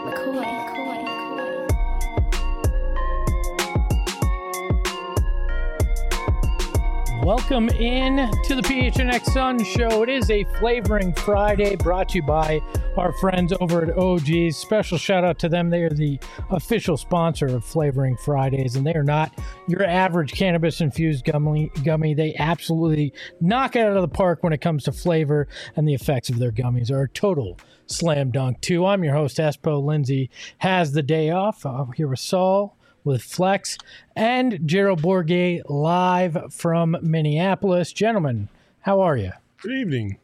Welcome in to the PHNX Sun Show. It is a Flavoring Friday brought to you by our friends over at OG's. Special shout out to them. They are the official sponsor of Flavoring Fridays, and they are not your average cannabis-infused gummy. They absolutely knock it out of the park when it comes to flavor, and the effects of their gummies are a total slam dunk, too. I'm your host, Espo. Lindsay has the day off. I'm here with Saul, with Flex, and Gerald Bourguet live from Minneapolis. Gentlemen, how are you? Good evening.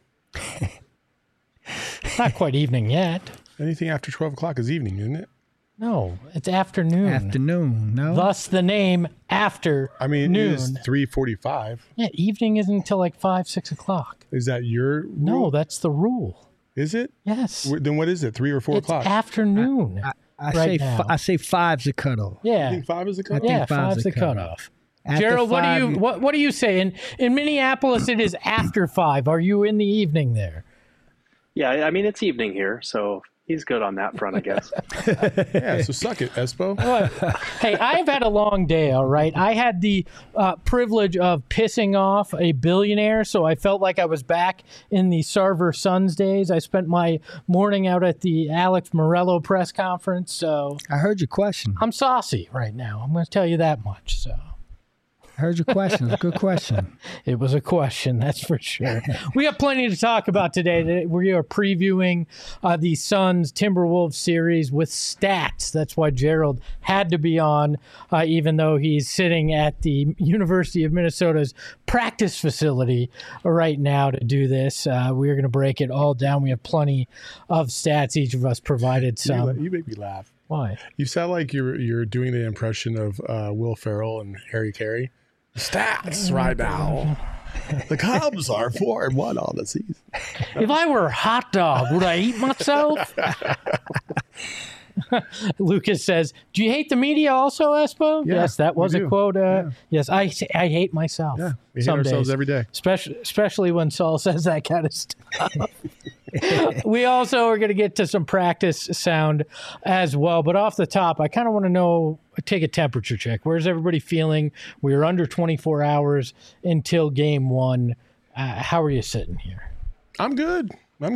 Not quite evening yet. Anything after 12 o'clock is evening, isn't it? No, it's afternoon. Afternoon, no? Thus the name After. I mean, it is 3:45. Yeah, evening isn't until like 5, 6 o'clock. Is that your rule? No, that's the rule. Is it? Yes. Then what is it, 3 or 4 It's o'clock? afternoon. I say five's the cutoff. Yeah. You think 5 is the cutoff? Yeah, five's five's the the cutoff. After Gerald, five, what do you say? In Minneapolis, it is after 5. Are you in the evening there? Yeah, I mean, it's evening here, so he's good on that front, I guess. Yeah, so suck it, Espo. Hey, I've had a long day, all right? I had the privilege of pissing off a billionaire, so I felt like I was back in the Sarver Sons days. I spent my morning out at the Alex Morello press conference, so I heard your question. I'm saucy right now. I'm going to tell you that much, so. I heard your question. It's a good question. It was a question, that's for sure. We have plenty to talk about today. We are previewing the Suns Timberwolves series with stats. That's why Gerald had to be on, even though he's sitting at the University of Minnesota's practice facility right now to do this. We're going to break it all down. We have plenty of stats. Each of us provided some. You make me laugh. Why? You sound like you're doing the impression of Will Ferrell and Harry Carey. Stats right now. The Cubs are 4-1 on the season. If I were a hot dog, would I eat myself? Lucas says, do you hate the media also, Espo? Yeah, yes, that was we a do. quote. Yeah. Yes, I hate myself. Yeah, we hate some ourselves days. every day. Especially when Saul says that kind of stuff. We also are going to get to some practice sound as well. But off the top, I kind of want to know, take a temperature check. Where's everybody feeling? We are under 24 hours until game one. How are you sitting here? I'm good.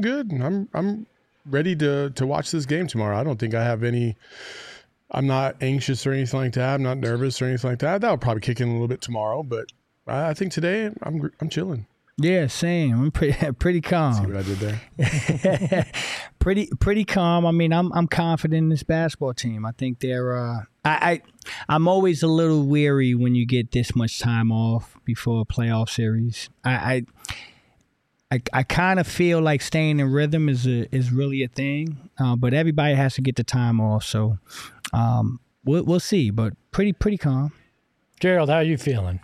I'm ready to watch this game tomorrow. I don't think I have any. I'm not anxious or anything like that. I'm not nervous or anything like that. That'll probably kick in a little bit tomorrow, but I think today I'm chilling. Yeah, same. I'm pretty calm. See what I did there? pretty calm. I mean, I'm confident in this basketball team. I think they're. I'm always a little weary when you get this much time off before a playoff series. I kind of feel like staying in rhythm is really a thing, but everybody has to get the time off. So we'll see, but pretty calm. Gerald, how are you feeling?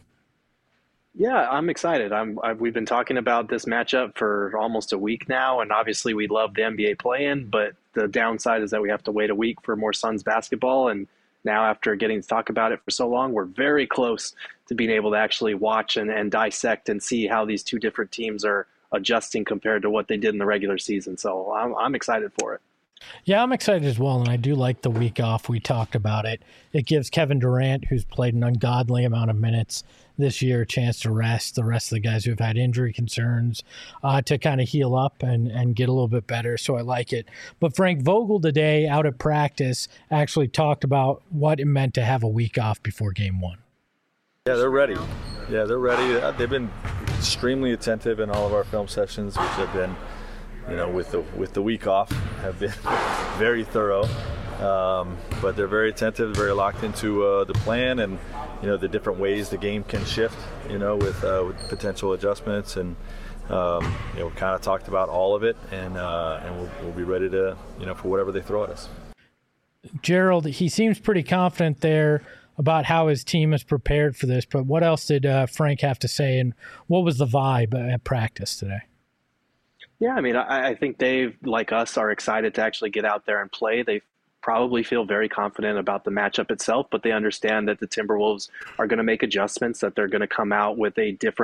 Yeah, I'm excited. We've been talking about this matchup for almost a week now, and obviously we love the NBA play-in, but the downside is that we have to wait a week for more Suns basketball, and now after getting to talk about it for so long, we're very close to being able to actually watch and dissect and see how these two different teams are adjusting compared to what they did in the regular season. So I'm excited for it. Yeah, I'm excited as well, and I do like the week off. We talked about it. It gives Kevin Durant, who's played an ungodly amount of minutes this year, a chance to rest the rest of the guys who've had injury concerns to kind of heal up and get a little bit better, so I like it. But Frank Vogel today, out at practice, actually talked about what it meant to have a week off before game one. Yeah, they're ready. They've been extremely attentive in all of our film sessions, which have been, with the week off, have been very thorough. But they're very attentive, very locked into the plan and, the different ways the game can shift, with potential adjustments. And, we kind of talked about all of it, and we'll be ready to, for whatever they throw at us. Gerald, he seems pretty confident there about how his team is prepared for this, but what else did Frank have to say, and what was the vibe at practice today? Yeah, I mean, I think they, like us, are excited to actually get out there and play. They probably feel very confident about the matchup itself, but they understand that the Timberwolves are going to make adjustments, that they're going to come out with a different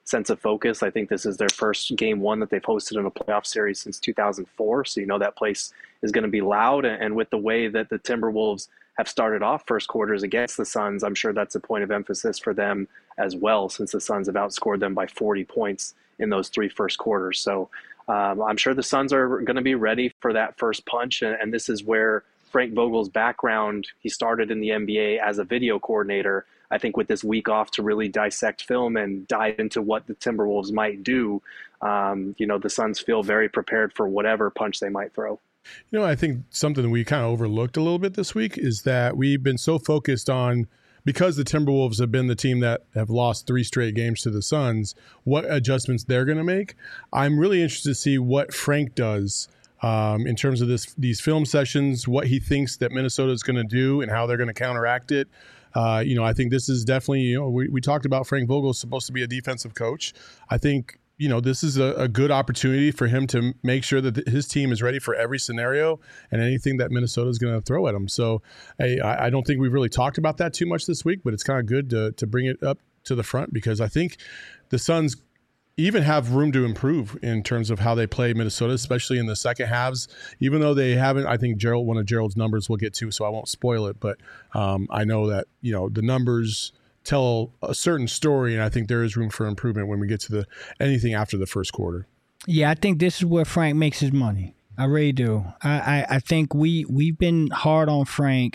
sense of focus. I think this is their first game one that they've hosted in a playoff series since 2004. So that place is going to be loud. And with the way that the Timberwolves have started off first quarters against the Suns, I'm sure that's a point of emphasis for them as well, since the Suns have outscored them by 40 points in those 3 first quarters. So I'm sure the Suns are going to be ready for that first punch. And this is where Frank Vogel's background, he started in the NBA as a video coordinator. I think with this week off to really dissect film and dive into what the Timberwolves might do, the Suns feel very prepared for whatever punch they might throw. I think something we kind of overlooked a little bit this week is that we've been so focused on, because the Timberwolves have been the team that have lost 3 straight games to the Suns, what adjustments they're going to make. I'm really interested to see what Frank does in terms of these film sessions, what he thinks that Minnesota is going to do and how they're going to counteract it. I think this is definitely, we talked about Frank Vogel is supposed to be a defensive coach. I think, this is a good opportunity for him to make sure that his team is ready for every scenario and anything that Minnesota is going to throw at them. So I don't think we've really talked about that too much this week, but it's kind of good to bring it up to the front, because I think the Suns even have room to improve in terms of how they play Minnesota, especially in the second halves, even though they haven't. I think one of Gerald's numbers we'll get to, so I won't spoil it. But I know that, the numbers tell a certain story, and I think there is room for improvement when we get to anything after the first quarter. Yeah, I think this is where Frank makes his money. I really do. I think we've been hard on Frank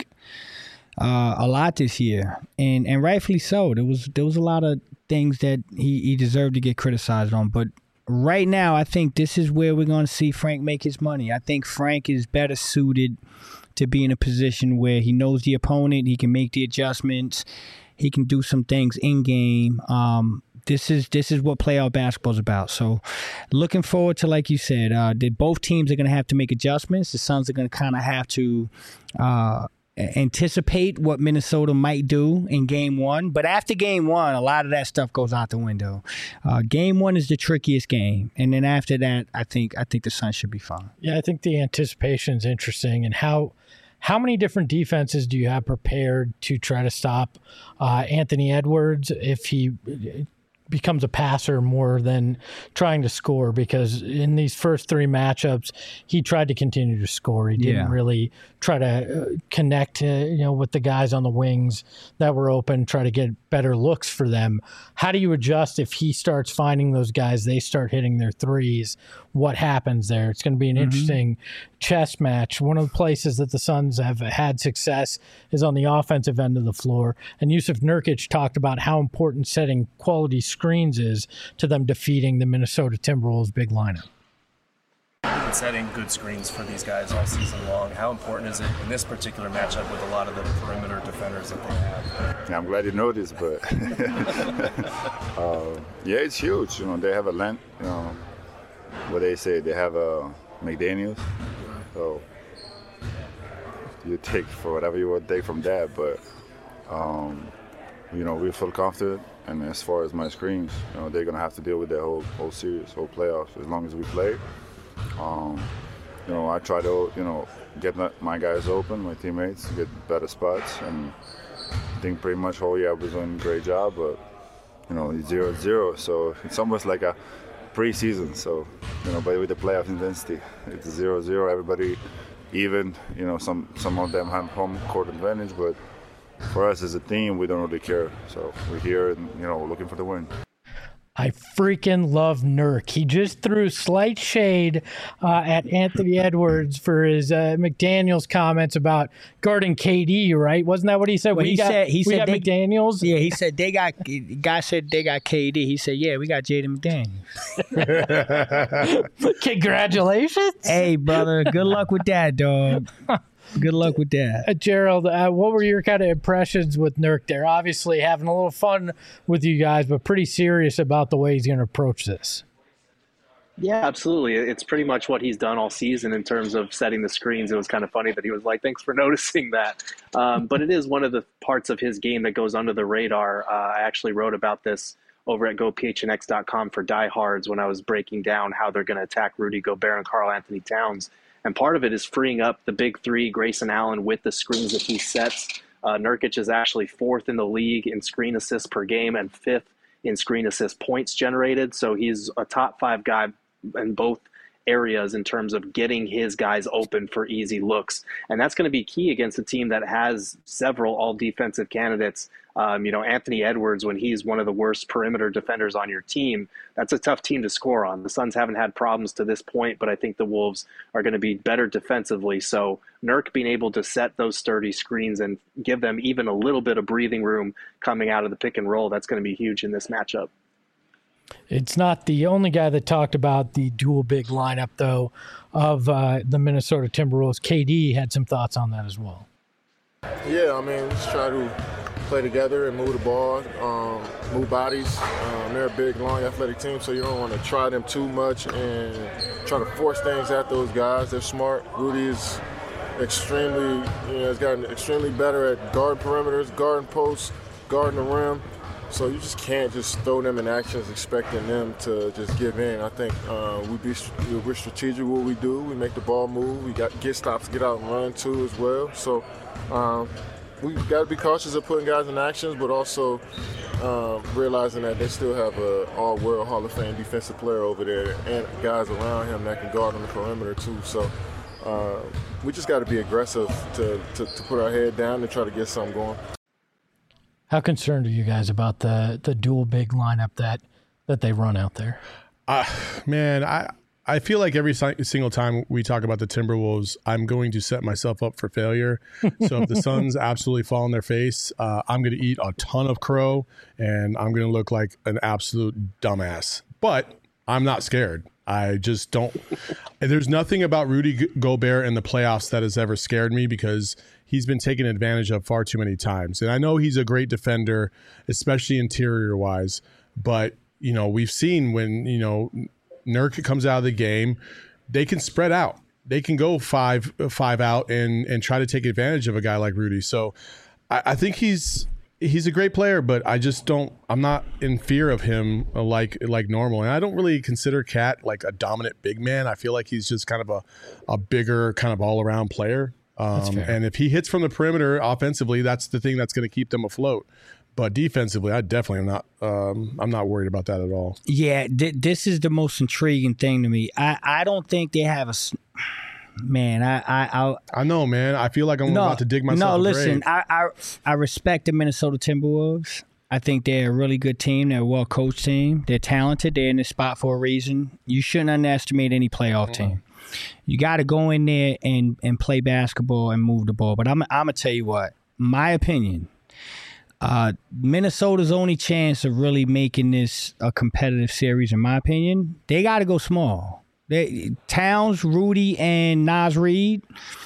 a lot this year, and rightfully so. There was a lot of things that he deserved to get criticized on, but right now I think this is where we're going to see Frank make his money. I think Frank is better suited to be in a position where he knows the opponent, he can make the adjustments, he can do some things in game. This is what playoff basketball is about. So looking forward to, like you said, both teams are going to have to make adjustments. The Suns are going to kind of have to anticipate what Minnesota might do in game one. But after game one, a lot of that stuff goes out the window. Game one is the trickiest game. And then after that, I think the Suns should be fine. Yeah, I think the anticipation is interesting. And how many different defenses do you have prepared to try to stop Anthony Edwards if he becomes a passer more than trying to score? Because in these first 3 matchups, he tried to continue to score. He didn't really try to connect, with the guys on the wings that were open, try to get better looks for them. How do you adjust if he starts finding those guys, they start hitting their threes? What happens there? It's going to be an interesting chess match. One of the places that the Suns have had success is on the offensive end of the floor. And Yusuf Nurkic talked about how important setting quality screens is to them defeating the Minnesota Timberwolves big lineup. We've been setting good screens for these guys all season long. How important is it in this particular matchup with a lot of the perimeter defenders that they have? Yeah, I'm glad you noticed, but yeah, it's huge. They have a length. What they say, they have a McDaniels. So you take for whatever you want to take from that, but we feel confident. And as far as my screens, they're gonna have to deal with that whole series, whole playoffs, as long as we play. I try to, get my guys open, my teammates, to get better spots, and I think pretty much whole year I was doing a great job, but, it's 0-0, so it's almost like a preseason, so, but with the playoff intensity, it's 0-0, everybody even, some of them have home court advantage, but for us as a team, we don't really care, so we're here and, looking for the win. I freaking love Nurk. He just threw slight shade at Anthony Edwards for his McDaniels comments about guarding KD, right? Wasn't that what he said? Well, he said they, McDaniels. Yeah, he said guy said they got KD. He said, yeah, we got Jaden McDaniels. Congratulations. Hey, brother. Good luck with that, dog. Good luck with that. Gerald, what were your kind of impressions with Nurk there? Obviously having a little fun with you guys, but pretty serious about the way he's going to approach this. Yeah, absolutely. It's pretty much what he's done all season in terms of setting the screens. It was kind of funny that he was like, thanks for noticing that. But it is one of the parts of his game that goes under the radar. I actually wrote about this over at GoPHNX.com for diehards when I was breaking down how they're going to attack Rudy Gobert and Karl Anthony Towns. And part of it is freeing up the big three, Grayson Allen, with the screens that he sets. Nurkic is actually 4th in the league in screen assists per game and 5th in screen assist points generated. So he's a top 5 guy in both areas in terms of getting his guys open for easy looks. And that's going to be key against a team that has several all defensive candidates. Anthony Edwards, when he's one of the worst perimeter defenders on your team, that's a tough team to score on. The Suns haven't had problems to this point, but I think the Wolves are going to be better defensively. So Nurk being able to set those sturdy screens and give them even a little bit of breathing room coming out of the pick and roll, that's going to be huge in this matchup. It's not the only guy that talked about the dual big lineup, though, of the Minnesota Timberwolves. KD had some thoughts on that as well. Yeah, I mean, just try to play together and move the ball, move bodies. They're a big, long, athletic team, so you don't want to try them too much and try to force things at those guys. They're smart. Rudy is has gotten extremely better at guarding perimeters, guarding posts, guarding the rim. So you just can't just throw them in actions expecting them to just give in. I think we're strategic what we do. We make the ball move. We get stops, get out and run too as well. So we've got to be cautious of putting guys in actions, but also realizing that they still have an all-world Hall of Fame defensive player over there and guys around him that can guard on the perimeter too. So we just got to be aggressive to put our head down and try to get something going. How concerned are you guys about the dual big lineup that they run out there? I feel like every single time we talk about the Timberwolves, I'm going to set myself up for failure. So if the Suns absolutely fall on their face, I'm going to eat a ton of crow, and I'm going to look like an absolute dumbass. But I'm not scared. I just don't. There's nothing about Rudy Gobert in the playoffs that has ever scared me because he's been taken advantage of far too many times. And I know he's a great defender, especially interior-wise. But, we've seen when, Nurk comes out of the game, they can spread out. They can go five out and try to take advantage of a guy like Rudy. So I think he's a great player, but I'm not in fear of him like normal. And I don't really consider Cat like a dominant big man. I feel like he's just kind of a bigger kind of all around player. And if he hits from the perimeter offensively, that's the thing that's going to keep them afloat. But defensively, I definitely am not. I'm not worried about that at all. Yeah, this is the most intriguing thing to me. I don't think they have a. Man, I know, man. I feel like I'm about to dig myself. No, listen. I respect the Minnesota Timberwolves. I think they're a really good team. They're a well-coached team. They're talented. They're in this spot for a reason. You shouldn't underestimate any playoff team. You got to go in there and play basketball and move the ball. But I'm going to tell you what, my opinion, Minnesota's only chance of really making this a competitive series, in my opinion, they got to go small. Towns, Rudy, and Naz Reid,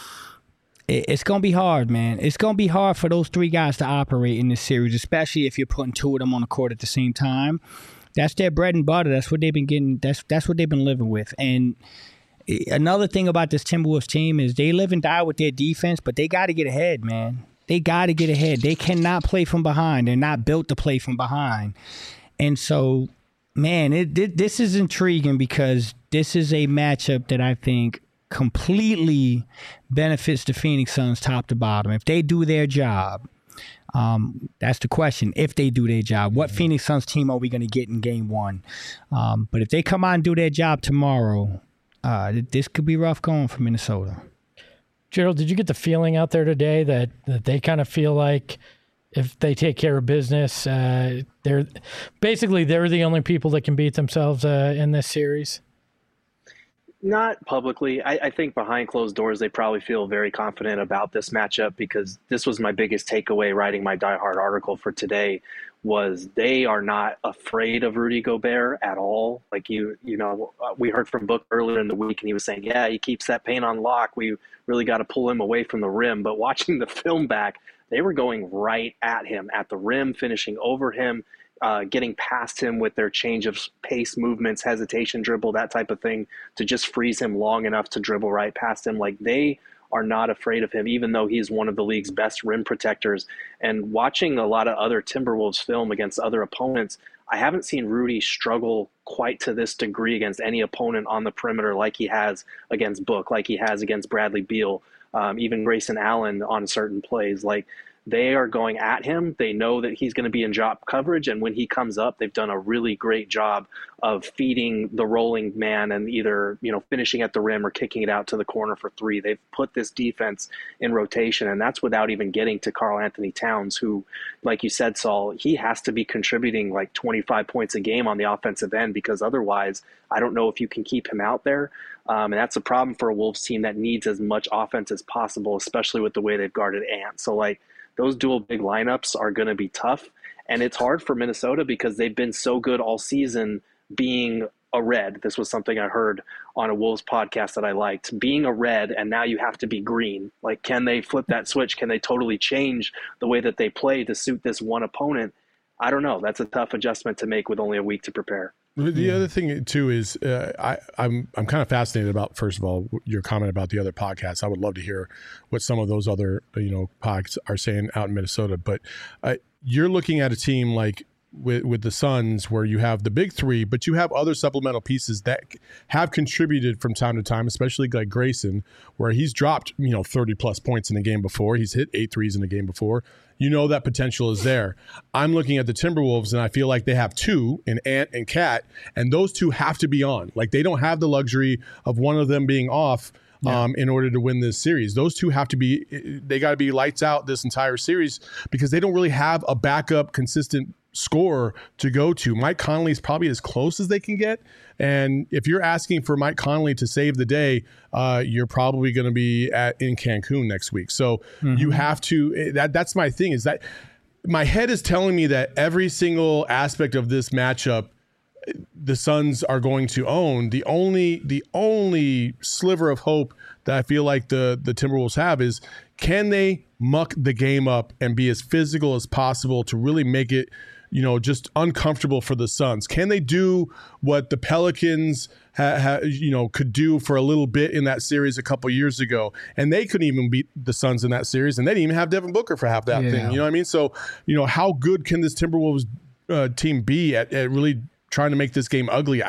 it's going to be hard, man. It's going to be hard for those three guys to operate in this series, especially if you're putting two of them on the court at the same time. That's their bread and butter. That's what they've been getting. That's what they've been living with. And another thing about this Timberwolves team is they live and die with their defense, but they got to get ahead, man. They got to get ahead. They cannot play from behind. They're not built to play from behind. And so, man, this is intriguing because this is a matchup that I think completely benefits the Phoenix Suns top to bottom. If they do their job, that's the question. If they do their job, what Phoenix Suns team are we going to get in game one? But if they come out and do their job tomorrow, this could be rough going for Minnesota. Gerald, did you get the feeling out there today that they kind of feel like if they take care of business, they're the only people that can beat themselves in this series? Not publicly. I think behind closed doors, they probably feel very confident about this matchup because this was my biggest takeaway writing my Die Hard article for today was they are not afraid of Rudy Gobert at all. Like, we heard from Book earlier in the week and he was saying, yeah, he keeps that paint on lock. We really got to pull him away from the rim. But watching the film back, they were going right at him, at the rim, finishing over him, getting past him with their change of pace movements, hesitation, dribble, that type of thing, to just freeze him long enough to dribble right past him. Like, they are not afraid of him, even though he's one of the league's best rim protectors. And watching a lot of other Timberwolves film against other opponents, I haven't seen Rudy struggle quite to this degree against any opponent on the perimeter like he has against Book, like he has against Bradley Beal, even Grayson Allen on certain plays. Like, they are going at him. They know that he's going to be in drop coverage, and when he comes up, they've done a really great job of feeding the rolling man and either, finishing at the rim or kicking it out to the corner for three. They've put this defense in rotation, and that's without even getting to Karl Anthony Towns, who, like you said, Saul, he has to be contributing like 25 points a game on the offensive end, because otherwise I don't know if you can keep him out there. And that's a problem for a Wolves team that needs as much offense as possible, especially with the way they've guarded Ant. So those dual big lineups are going to be tough. And it's hard for Minnesota because they've been so good all season being a red. This was something I heard on a Wolves podcast that I liked. Being a red, and now you have to be green. Can they flip that switch? Can they totally change the way that they play to suit this one opponent? I don't know. That's a tough adjustment to make with only a week to prepare. The other thing too is I'm kind of fascinated about, first of all, your comment about the other podcasts. I would love to hear what some of those other podcasts are saying out in Minnesota. But you're looking at a team like with the Suns, where you have the big three, but you have other supplemental pieces that have contributed from time to time, especially like Grayson, where he's dropped 30 plus points in the game before. He's hit 8 threes in the game before. That potential is there. I'm looking at the Timberwolves, and I feel like they have two in Ant and Cat, and those two have to be on. They don't have the luxury of one of them being off in order to win this series. Those two have to be, they got to be lights out this entire series, because they don't really have a backup consistent scorer to go to. Mike Conley is probably as close as they can get. And if you're asking for Mike Conley to save the day, you're probably going to be in Cancun next week. So you have to, that's my thing, is that my head is telling me that every single aspect of this matchup, the Suns are going to own. The only sliver of hope that I feel like the Timberwolves have is, can they muck the game up and be as physical as possible to really make it just uncomfortable for the Suns? Can they do what the Pelicans could do for a little bit in that series a couple years ago? And they couldn't even beat the Suns in that series, and they didn't even have Devin Booker for half that thing. You know what I mean? So, how good can this Timberwolves team be at really trying to make this game ugly?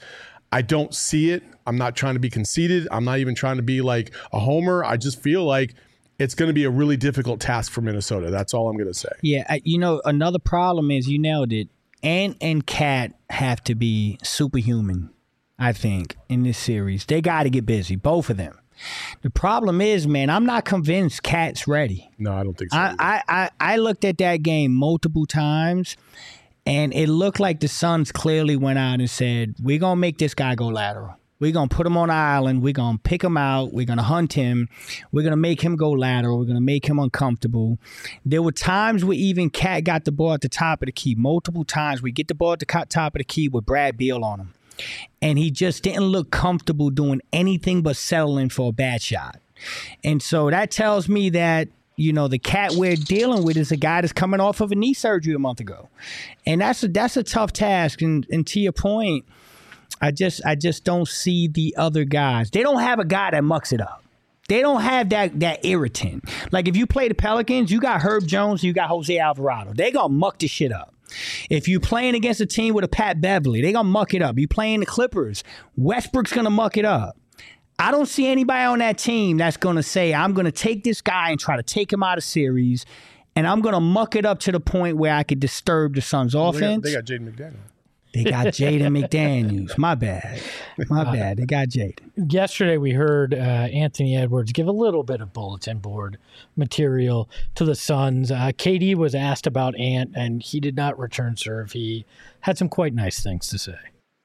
I don't see it. I'm not trying to be conceited. I'm not even trying to be like a homer. I just feel like it's going to be a really difficult task for Minnesota. That's all I'm going to say. Yeah, another problem is, you nailed it, Ant and Cat have to be superhuman, I think, in this series. They got to get busy, both of them. The problem is, man, I'm not convinced Cat's ready. No, I don't think so. I looked at that game multiple times, and it looked like the Suns clearly went out and said, we're going to make this guy go lateral. We're going to put him on an island. We're going to pick him out. We're going to hunt him. We're going to make him go lateral. We're going to make him uncomfortable. There were times where even Cat got the ball at the top of the key. Multiple times we get the ball at the top of the key with Brad Beal on him. And he just didn't look comfortable doing anything but settling for a bad shot. And so that tells me that, the Cat we're dealing with is a guy that's coming off of a knee surgery a month ago. And that's a tough task. And to your point, I just don't see the other guys. They don't have a guy that mucks it up. They don't have that irritant. Like, if you play the Pelicans, you got Herb Jones, you got Jose Alvarado. They gonna muck this shit up. If you playing against a team with a Pat Beverly, they gonna muck it up. You playing the Clippers, Westbrook's gonna muck it up. I don't see anybody on that team that's gonna say, I'm gonna take this guy and try to take him out of series, and I'm gonna muck it up to the point where I could disturb the Suns' offense. They got Jaden McDaniels. They got Jaden McDaniels. My bad. They got Jaden. Yesterday we heard Anthony Edwards give a little bit of bulletin board material to the Suns. KD was asked about Ant, and he did not return serve. He had some quite nice things to say.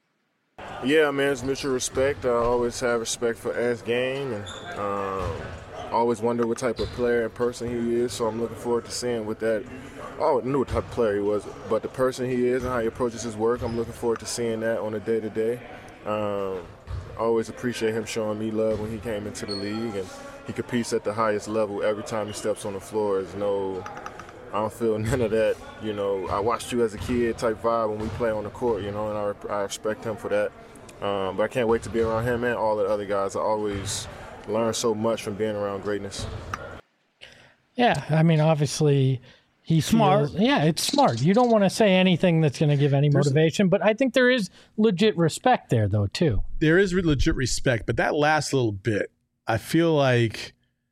Yeah, man, it's mutual respect. I always have respect for Ant's game, and always wonder what type of player and person he is, so I'm looking forward to seeing what that – I knew what type of player he was, but the person he is and how he approaches his work, I'm looking forward to seeing that on a day-to-day. I always appreciate him showing me love when he came into the league, and he competes at the highest level every time he steps on the floor. I don't feel none of that, I watched you as a kid type vibe when we play on the court, and I respect him for that. But I can't wait to be around him and all the other guys. I always learn so much from being around greatness. Yeah, I mean, obviously he's smart. Yeah, it's smart. You don't want to say anything that's going to give any motivation, but I think there is legit respect there, though, too. There is legit respect, but that last little bit, I feel like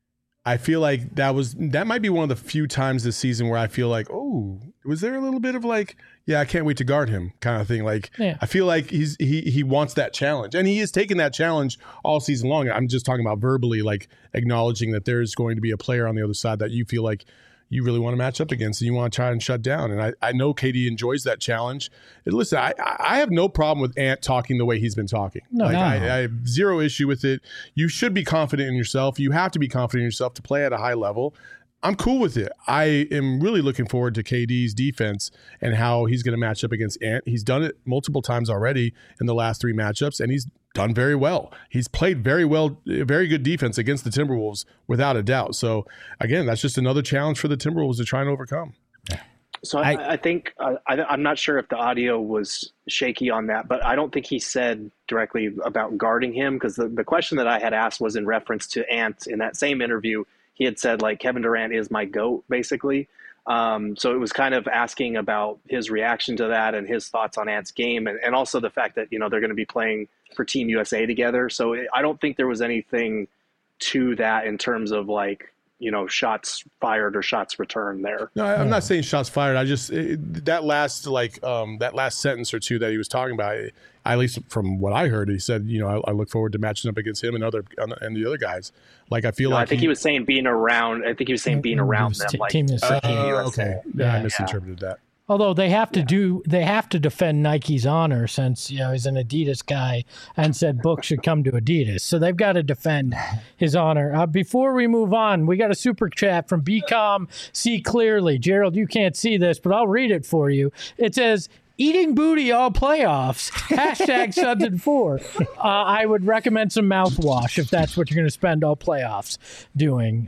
I feel like that might be one of the few times this season where I feel like, oh, was there a little bit of like, yeah, I can't wait to guard him kind of thing. Like, I feel like he wants that challenge, and he has taken that challenge all season long. I'm just talking about verbally, like acknowledging that there's going to be a player on the other side that you feel like you really want to match up against and you want to try and shut down. And I know KD enjoys that challenge. And listen, I have no problem with Ant talking the way he's been talking. I have zero issue with it. You should be confident in yourself. You have to be confident in yourself to play at a high level. I'm cool with it. I am really looking forward to KD's defense and how he's going to match up against Ant. He's done it multiple times already in the last 3 matchups, and he's done very well. He's played very well, very good defense against the Timberwolves without a doubt. So again, that's just another challenge for the Timberwolves to try and overcome. So I think I'm not sure if the audio was shaky on that, but I don't think he said directly about guarding him, because the question that I had asked was in reference to Ant. In that same interview, he had said like Kevin Durant is my GOAT, basically. So it was kind of asking about his reaction to that and his thoughts on Ant's game, and also the fact that, they're going to be playing for Team USA together. So I don't think there was anything to that in terms of like, shots fired or shots returned there. No, I'm not saying shots fired. I just that last sentence or two that he was talking about, at least from what I heard, he said, I look forward to matching up against him and the other guys. Like I feel like I think he was saying being around. I think he was saying being around them. Like Team USA. Okay, I misinterpreted that. Although they have to defend Nike's honor, since he's an Adidas guy and said Book should come to Adidas, so they've got to defend his honor. Before we move on, we got a super chat from BCom See Clearly. Gerald, you can't see this, but I'll read it for you. It says, "Eating booty all playoffs. #Suns and 4. I would recommend some mouthwash if that's what you're going to spend all playoffs doing.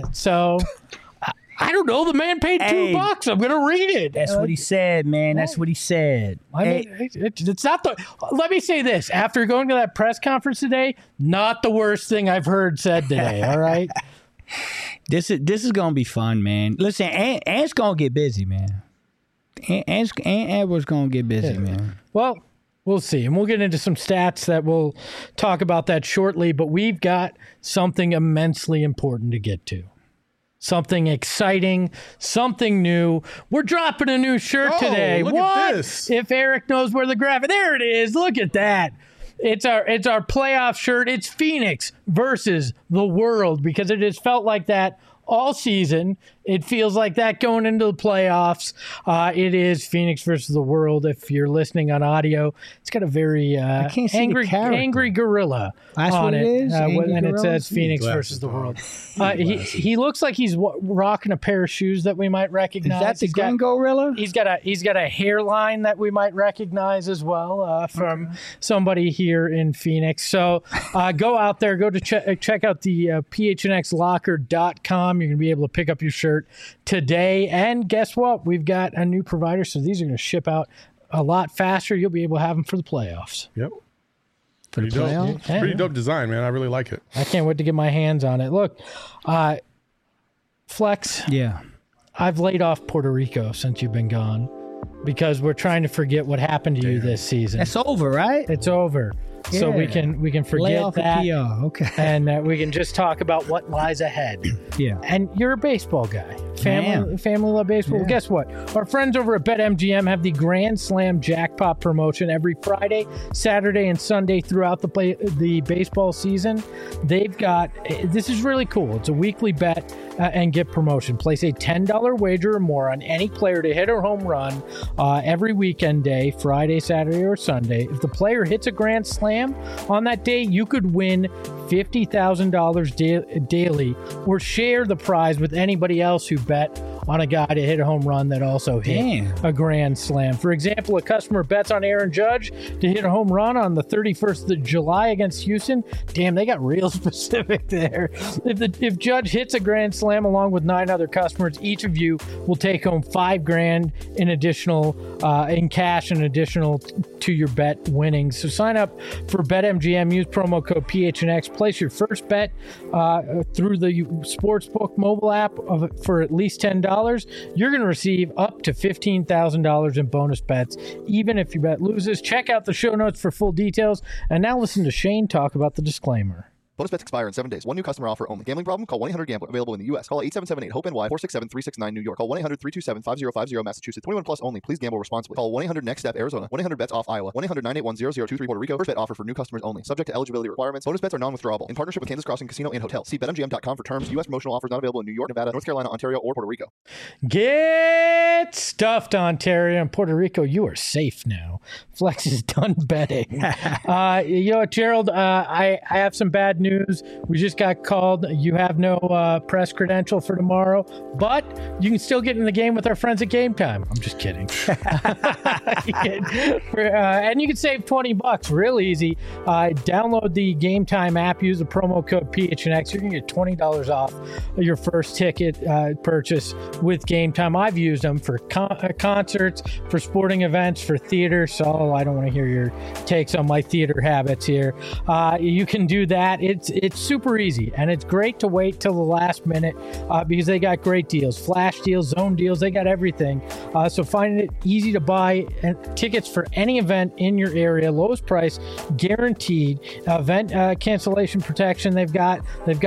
I don't know. The man paid $2. I'm going to read it. That's what he said, man. That's what he said. I mean, it's not the. Let me say this: after going to that press conference today, not the worst thing I've heard said today. All right. This is going to be fun, man. Listen, Ant's going to get busy, man. Ant Edwards going to get busy, man. Well, we'll see. And we'll get into some stats that we'll talk about that shortly. But we've got something immensely important to get to. Something exciting, something new. We're dropping a new shirt today. Look what? At this. If Eric knows where the graphic, there it is. Look at that. It's our playoff shirt. It's Phoenix versus the world, because it has felt like that all season. It feels like that going into the playoffs. It is Phoenix versus the world. If you're listening on audio, it's got a very angry gorilla on it. And it says Phoenix versus the world. He looks like he's rocking a pair of shoes that we might recognize. Is that the green gorilla? He's got a hairline that we might recognize as well from somebody here in Phoenix. So go out there, go to check out the phnxlocker.com. You're going to be able to pick up your shirt today. And guess what? We've got a new provider, so these are going to ship out a lot faster. You'll be able to have them for the playoffs. Yep. Pretty dope. Pretty dope design, man. I really like it. I can't wait to get my hands on it. Look, Flex. Yeah. I've laid off Puerto Rico since you've been gone, because we're trying to forget what happened to you this season. That's over, right? It's over. Yeah. So we can forget that. Okay. And we can just talk about what lies ahead. Yeah. And you're a baseball guy. Family love baseball. Yeah. Well, guess what? Our friends over at BetMGM have the Grand Slam Jackpot promotion every Friday, Saturday, and Sunday throughout the baseball season. They've got, this is really cool. It's a weekly bet and get promotion. Place a $10 wager or more on any player to hit a home run every weekend day, Friday, Saturday, or Sunday. If the player hits a Grand Slam on that day, you could win $50,000 daily, or share the prize with anybody else who bet on a guy to hit a home run that also hit a Grand Slam. For example, a customer bets on Aaron Judge to hit a home run on the 31st of July against Houston. Damn, they got real specific there. If Judge hits a Grand Slam along with 9 other customers, each of you will take home $5,000 in additional in cash, and additional to your bet winnings. So sign up for BetMGM. Use promo code PHNX. Place your first bet through the Sportsbook mobile app for at least $10. You're going to receive up to $15,000 in bonus bets, even if your bet loses. Check out the show notes for full details. And now listen to Shane talk about the disclaimer. Bonus bets expire in 7 days. One new customer offer only. Gambling problem? Call 1-800-GAMBLER. Available in the U.S. Call 877-8-HOPE-NY 467-369 New York. Call 1-800-327-5050 Massachusetts. 21 plus only. Please gamble responsibly. Call 1-800-NEXT-STEP Arizona. 1-800-BETS-OFF Iowa. 1-800-981-0023 Puerto Rico. First bet offer for new customers only. Subject to eligibility requirements. Bonus bets are non-withdrawable. In partnership with Kansas Crossing Casino and Hotel. See BetMGM.com for terms. U.S. promotional offers not available in New York, Nevada, North Carolina, Ontario, or Puerto Rico. Get stuffed, Ontario and Puerto Rico. You are safe now. Flex is done betting. You know what, Gerald? I have some bad news. We just got called. You have no press credential for tomorrow, but you can still get in the game with our friends at Game Time. I'm just kidding. And you can save $20 real easy. Download the Game Time app. Use the promo code PHNX. You're going to get $20 off your first ticket purchase with Game Time. I've used them for concerts, for sporting events, for theater. So I don't want to hear your takes on my theater habits here. You can do that. It's super easy, and it's great to wait till the last minute because they got great deals, flash deals, zone deals. They got everything. So find it easy to buy tickets for any event in your area. Lowest price guaranteed. Event cancellation protection. They've got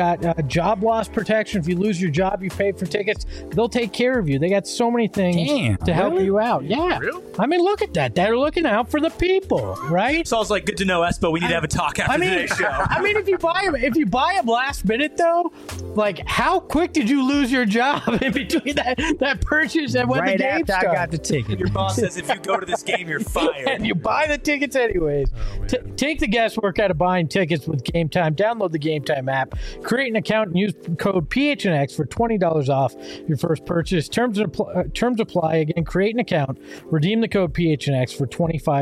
job loss protection. If you lose your job, you pay for tickets. They'll take care of you. They got so many things to help you out. Yeah. Really? I mean, look at that. They're looking out for the people, right? Sounds like good to know, Espo. We need to have a talk after today's show. I mean, if you buy them last minute though, like how quick did you lose your job in between that purchase and when right the game after started? I got the ticket. Your boss says if you go to this game, you're fired. And you buy the tickets anyways. Take the guesswork out of buying tickets with Game Time. Download the Game Time app. Create an account and use code PHNX for $20 off your first purchase. Terms apply. Again, create an account. Redeem the code PHNX for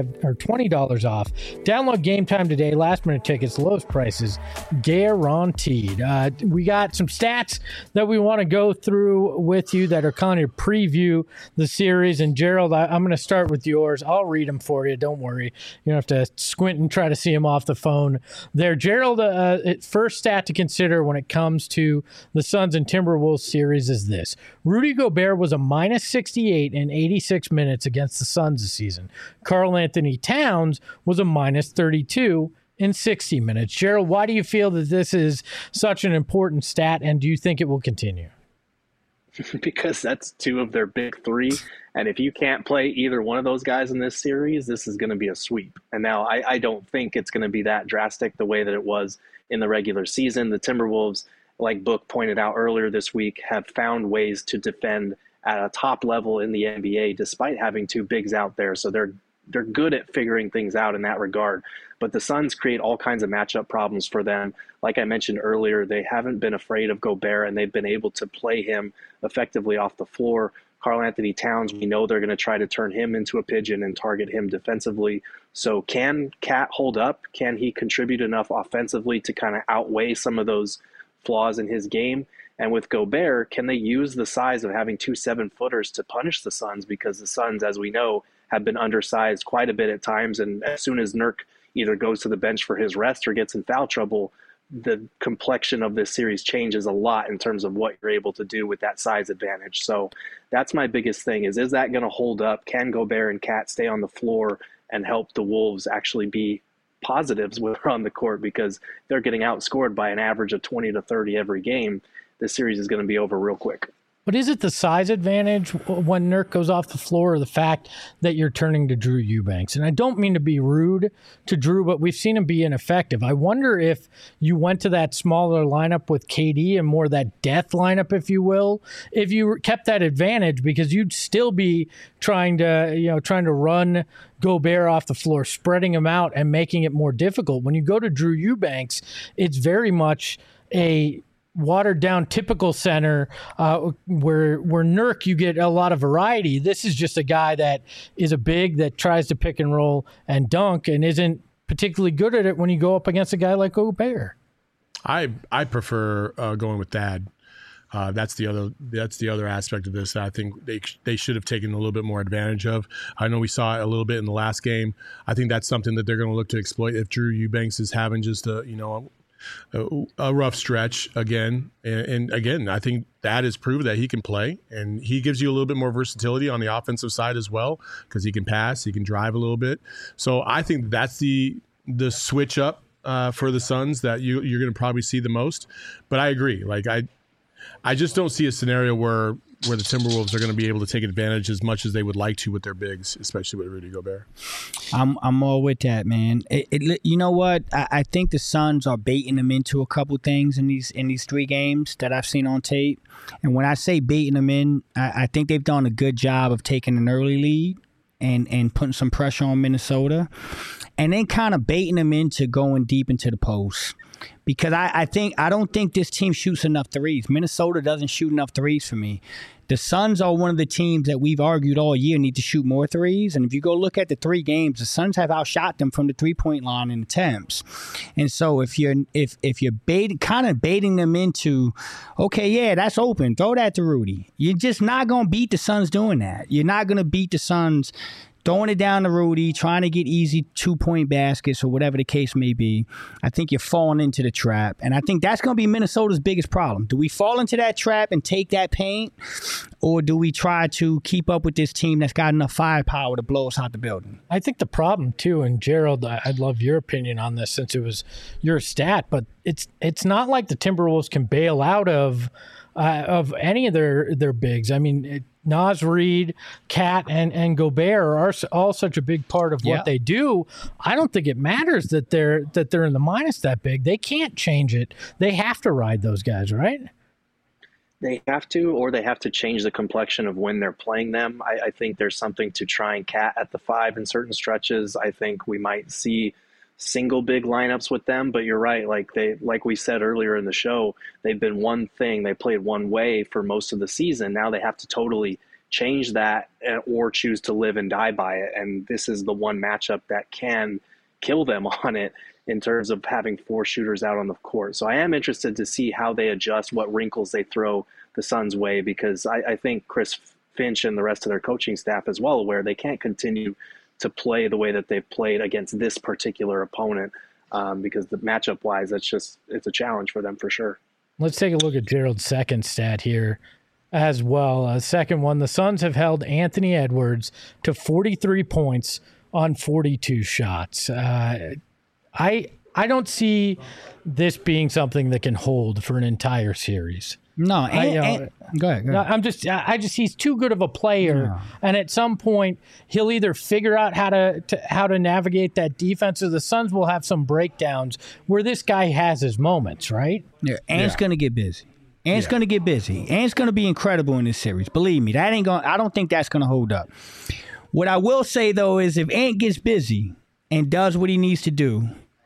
$20 off. Download Game Time today. Last minute tickets, lowest prices guaranteed. We got some stats that we want to go through with you that are kind of preview the series. And Gerald, I'm going to start with yours. I'll read them for you. Don't worry. You don't have to squint and try to see them off the phone there. Gerald, first stat to consider when it comes to the Suns and Timberwolves series is this. Rudy Gobert was a minus 68 in 86 minutes against the Suns this season. Karl Anthony Towns was a minus 32 in 60 minutes. Gerald, why do you feel that this is such an important stat, and do you think it will continue? Because that's two of their big three. And if you can't play either one of those guys in this series, this is going to be a sweep. And now I don't think it's going to be that drastic the way that it was in the regular season. The Timberwolves, like Book pointed out earlier this week, have found ways to defend at a top level in the NBA despite having two bigs out there. So they're good at figuring things out in that regard. But the Suns create all kinds of matchup problems for them. Like I mentioned earlier, they haven't been afraid of Gobert, and they've been able to play him effectively off the floor. Karl Anthony Towns, we know they're going to try to turn him into a pigeon and target him defensively. So can Cat hold up? Can he contribute enough offensively to kind of outweigh some of those flaws in his game? And with Gobert, can they use the size of having two 7-footers to punish the Suns? Because the Suns, as we know, have been undersized quite a bit at times. And as soon as Nurk either goes to the bench for his rest or gets in foul trouble, the complexion of this series changes a lot in terms of what you're able to do with that size advantage. So that's my biggest thing is that going to hold up? Can Gobert and Cat stay on the floor and help the Wolves actually be positives when they're on the court? Because they're getting outscored by an average of 20 to 30 every game. This series is going to be over real quick. But is it the size advantage when Nurk goes off the floor, or the fact that you're turning to Drew Eubanks? And I don't mean to be rude to Drew, but we've seen him be ineffective. I wonder if you went to that smaller lineup with KD and more that death lineup, if you will, if you kept that advantage, because you'd still be trying to run Gobert off the floor, spreading him out and making it more difficult. When you go to Drew Eubanks, it's very much a watered down typical center where Nurk, you get a lot of variety. This is just a guy that is a big that tries to pick and roll and dunk and isn't particularly good at it when you go up against a guy like Gobert. I prefer going with Thad. That's the other aspect of this that I think they should have taken a little bit more advantage of. I know we saw it a little bit in the last game. I think that's something that they're going to look to exploit if Drew Eubanks is having just a rough stretch again. And again, I think that has proved that he can play, and he gives you a little bit more versatility on the offensive side as well, because he can pass, he can drive a little bit. So I think that's the switch up for the Suns that you're going to probably see the most. But I agree. Like I just don't see a scenario where the Timberwolves are going to be able to take advantage as much as they would like to with their bigs, especially with Rudy Gobert. I'm all with that, man. You know what? I think the Suns are baiting them into a couple things in these 3 games that I've seen on tape. And when I say baiting them in, I think they've done a good job of taking an early lead and putting some pressure on Minnesota, and then kind of baiting them into going deep into the post. Because I don't think this team shoots enough threes. Minnesota doesn't shoot enough threes for me. The Suns are one of the teams that we've argued all year need to shoot more threes. And if you go look at the 3 games, the Suns have outshot them from the 3-point line in attempts. And so if you're kind of baiting them into, okay, yeah, that's open, throw that to Rudy. You're just not going to beat the Suns doing that. You're not going to beat the Suns throwing it down to Rudy, trying to get easy 2-point baskets or whatever the case may be. I think you're falling into the trap. And I think that's going to be Minnesota's biggest problem. Do we fall into that trap and take that paint? Or do we try to keep up with this team that's got enough firepower to blow us out the building? I think the problem, too, and Gerald, I'd love your opinion on this since it was your stat, but it's not like the Timberwolves can bail out of any of their bigs. I mean, Naz Reid, Cat, and Gobert are all such a big part of what they do. I don't think it matters that they're in the minus that big. They can't change it. They have to ride those guys, right? They have to, or they have to change the complexion of when they're playing them. I think there's something to trying Cat at the 5 in certain stretches. I think we might see single big lineups with them, but you're right. Like we said earlier in the show, they've been one thing. They played one way for most of the season. Now they have to totally change that or choose to live and die by it. And this is the one matchup that can kill them on it in terms of having 4 shooters out on the court. So I am interested to see how they adjust, what wrinkles they throw the Suns' way, because I think Chris Finch and the rest of their coaching staff is well aware they can't continue to play the way that they've played against this particular opponent, because the matchup-wise, it's a challenge for them for sure. Let's take a look at Gerald's second stat here as well. Second one, the Suns have held Anthony Edwards to 43 points on 42 shots. I don't see this being something that can hold for an entire series. No, go ahead. He's too good of a player, and at some point he'll either figure out how to navigate that defense, or the Suns will have some breakdowns where this guy has his moments, right? Yeah, Ant's gonna get busy. Ant's gonna get busy. Ant's gonna be incredible in this series. Believe me, that ain't gonna. I don't think that's gonna hold up. What I will say though is, if Ant gets busy and does what he needs to do,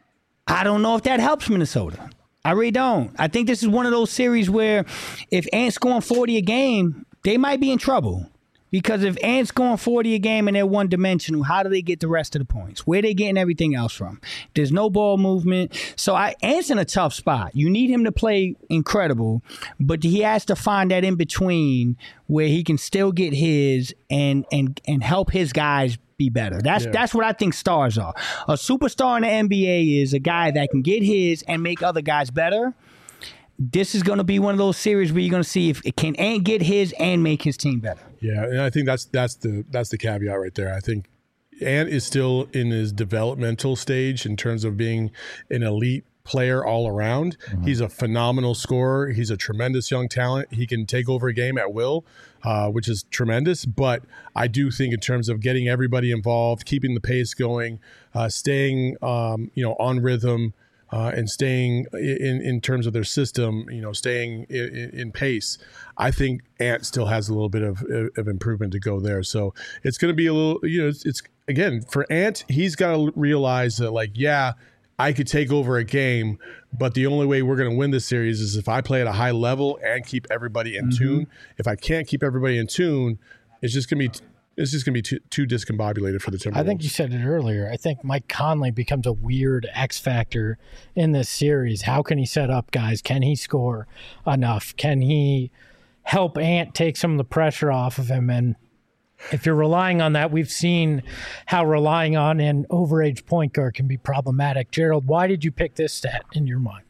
I don't know if that helps Minnesota. I really don't. I think this is one of those series where if Ant's scoring 40 a game, they might be in trouble. Because if Ant's scoring 40 a game and they're one-dimensional, how do they get the rest of the points? Where are they getting everything else from? There's no ball movement. So Ant's in a tough spot. You need him to play incredible, but he has to find that in-between where he can still get his and help his guys be better. That's what I think stars are. A superstar in the NBA is a guy that can get his and make other guys better. This is going to be one of those series where you're going to see if it can Ant get his and make his team better. Yeah, and I think that's the caveat right there. I think Ant is still in his developmental stage in terms of being an elite player all around. Mm-hmm. He's a phenomenal scorer. He's a tremendous young talent. He can take over a game at will, which is tremendous. But I do think in terms of getting everybody involved, keeping the pace going, staying on rhythm, and staying in terms of their system, staying in pace, I think Ant still has a little bit of improvement to go there. So it's going to be a little, it's again, for Ant, he's got to realize that I could take over a game, but the only way we're going to win this series is if I play at a high level and keep everybody in tune. If I can't keep everybody in tune, it's just going to be too discombobulated for the Timberwolves. I think you said it earlier. I think Mike Conley becomes a weird X factor in this series. How can he set up guys? Can he score enough? Can he help Ant take some of the pressure off of him? And if you're relying on that, we've seen how relying on an overage point guard can be problematic. Gerald, why did you pick this stat in your mind?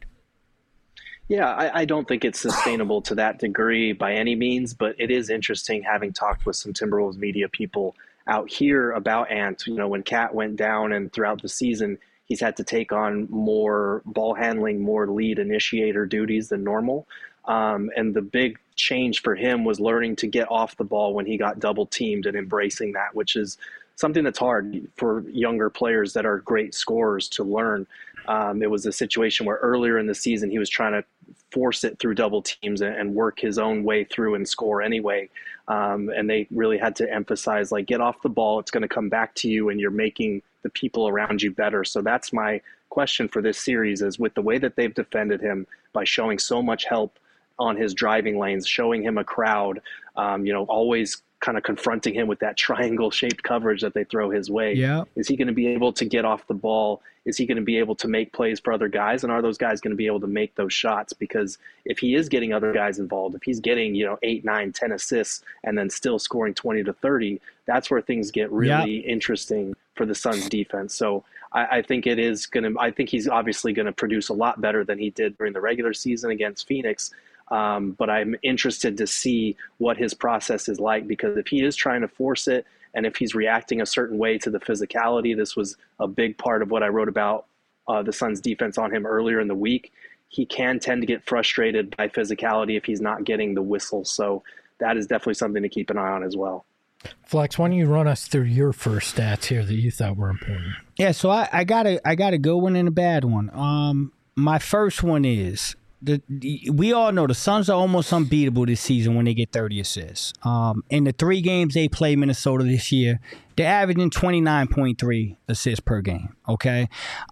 Yeah, I don't think it's sustainable to that degree by any means, but it is interesting having talked with some Timberwolves media people out here about Ant. When Cat went down and throughout the season, he's had to take on more ball handling, more lead initiator duties than normal. And the big change for him was learning to get off the ball when he got double teamed and embracing that, which is something that's hard for younger players that are great scorers to learn. It was a situation where earlier in the season he was trying to force it through double teams and work his own way through and score anyway. And they really had to emphasize, like, get off the ball. It's going to come back to you, and you're making the people around you better. So that's my question for this series, is with the way that they've defended him by showing so much help on his driving lanes, showing him a crowd, always kind of confronting him with that triangle-shaped coverage that they throw his way. Yeah. Is he going to be able to get off the ball? Is he going to be able to make plays for other guys? And are those guys going to be able to make those shots? Because if he is getting other guys involved, if he's getting 8, 9, 10 assists and then still scoring 20 to 30, that's where things get really interesting for the Suns defense. So I think I think he's obviously going to produce a lot better than he did during the regular season against Phoenix. But I'm interested to see what his process is like, because if he is trying to force it and if he's reacting a certain way to the physicality, this was a big part of what I wrote about the Suns defense on him earlier in the week. He can tend to get frustrated by physicality if he's not getting the whistle. So that is definitely something to keep an eye on as well. Flex, why don't you run us through your first stats here that you thought were important? Yeah, so I got a good one and a bad one. My first one is, we all know the Suns are almost unbeatable this season when they get 30 assists. In the 3 games they play Minnesota this year, they're averaging 29.3 assists per game, okay?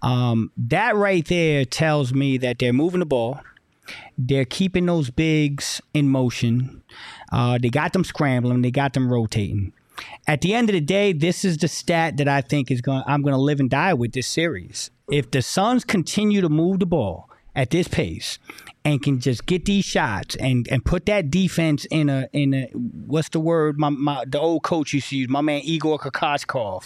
That right there tells me that they're moving the ball. They're keeping those bigs in motion. They got them scrambling. They got them rotating. At the end of the day, this is the stat that I think I'm going to live and die with this series. If the Suns continue to move the ball at this pace and can just get these shots and put that defense in a what's the word the old coach used to use, my man Igor Kokoskov,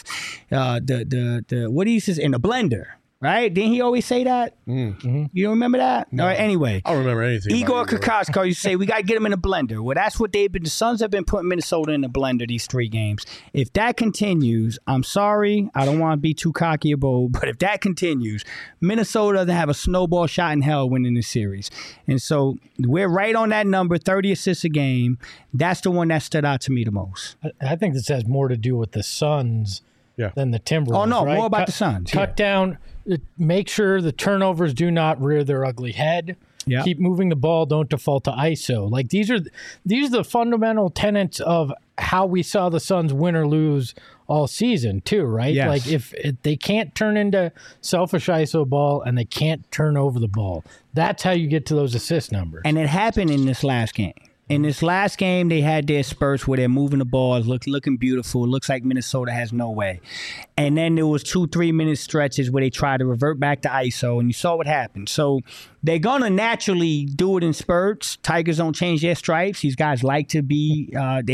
the what he used to say, in a blender. Right? Didn't he always say that? Mm-hmm. You don't remember that? No. All right, anyway. I don't remember anything. Igor Kokoskov used to say, we got to get him in a blender. Well, that's what the Suns have been putting Minnesota in a blender these 3 games. If that continues, I'm sorry, I don't want to be too cocky or bold, but if that continues, Minnesota doesn't have a snowball shot in hell winning this series. And so we're right on that number, 30 assists a game. That's the one that stood out to me the most. I think this has more to do with the Suns than the Timberwolves. Oh, no, right? more about the Suns. Cut down, make sure the turnovers do not rear their ugly head. Yeah. Keep moving the ball, don't default to ISO. Like these are the fundamental tenets of how we saw the Suns win or lose all season too, right? Yes. Like if they can't turn into selfish ISO ball and they can't turn over the ball, that's how you get to those assist numbers. And it happened in this last game. In this last game, they had their spurts where they're moving the ball, looking beautiful. It looks like Minnesota has no way. And then there was 2-3 minute stretches where they tried to revert back to ISO, and you saw what happened. So they're going to naturally do it in spurts. Tigers don't change their stripes. These guys like to be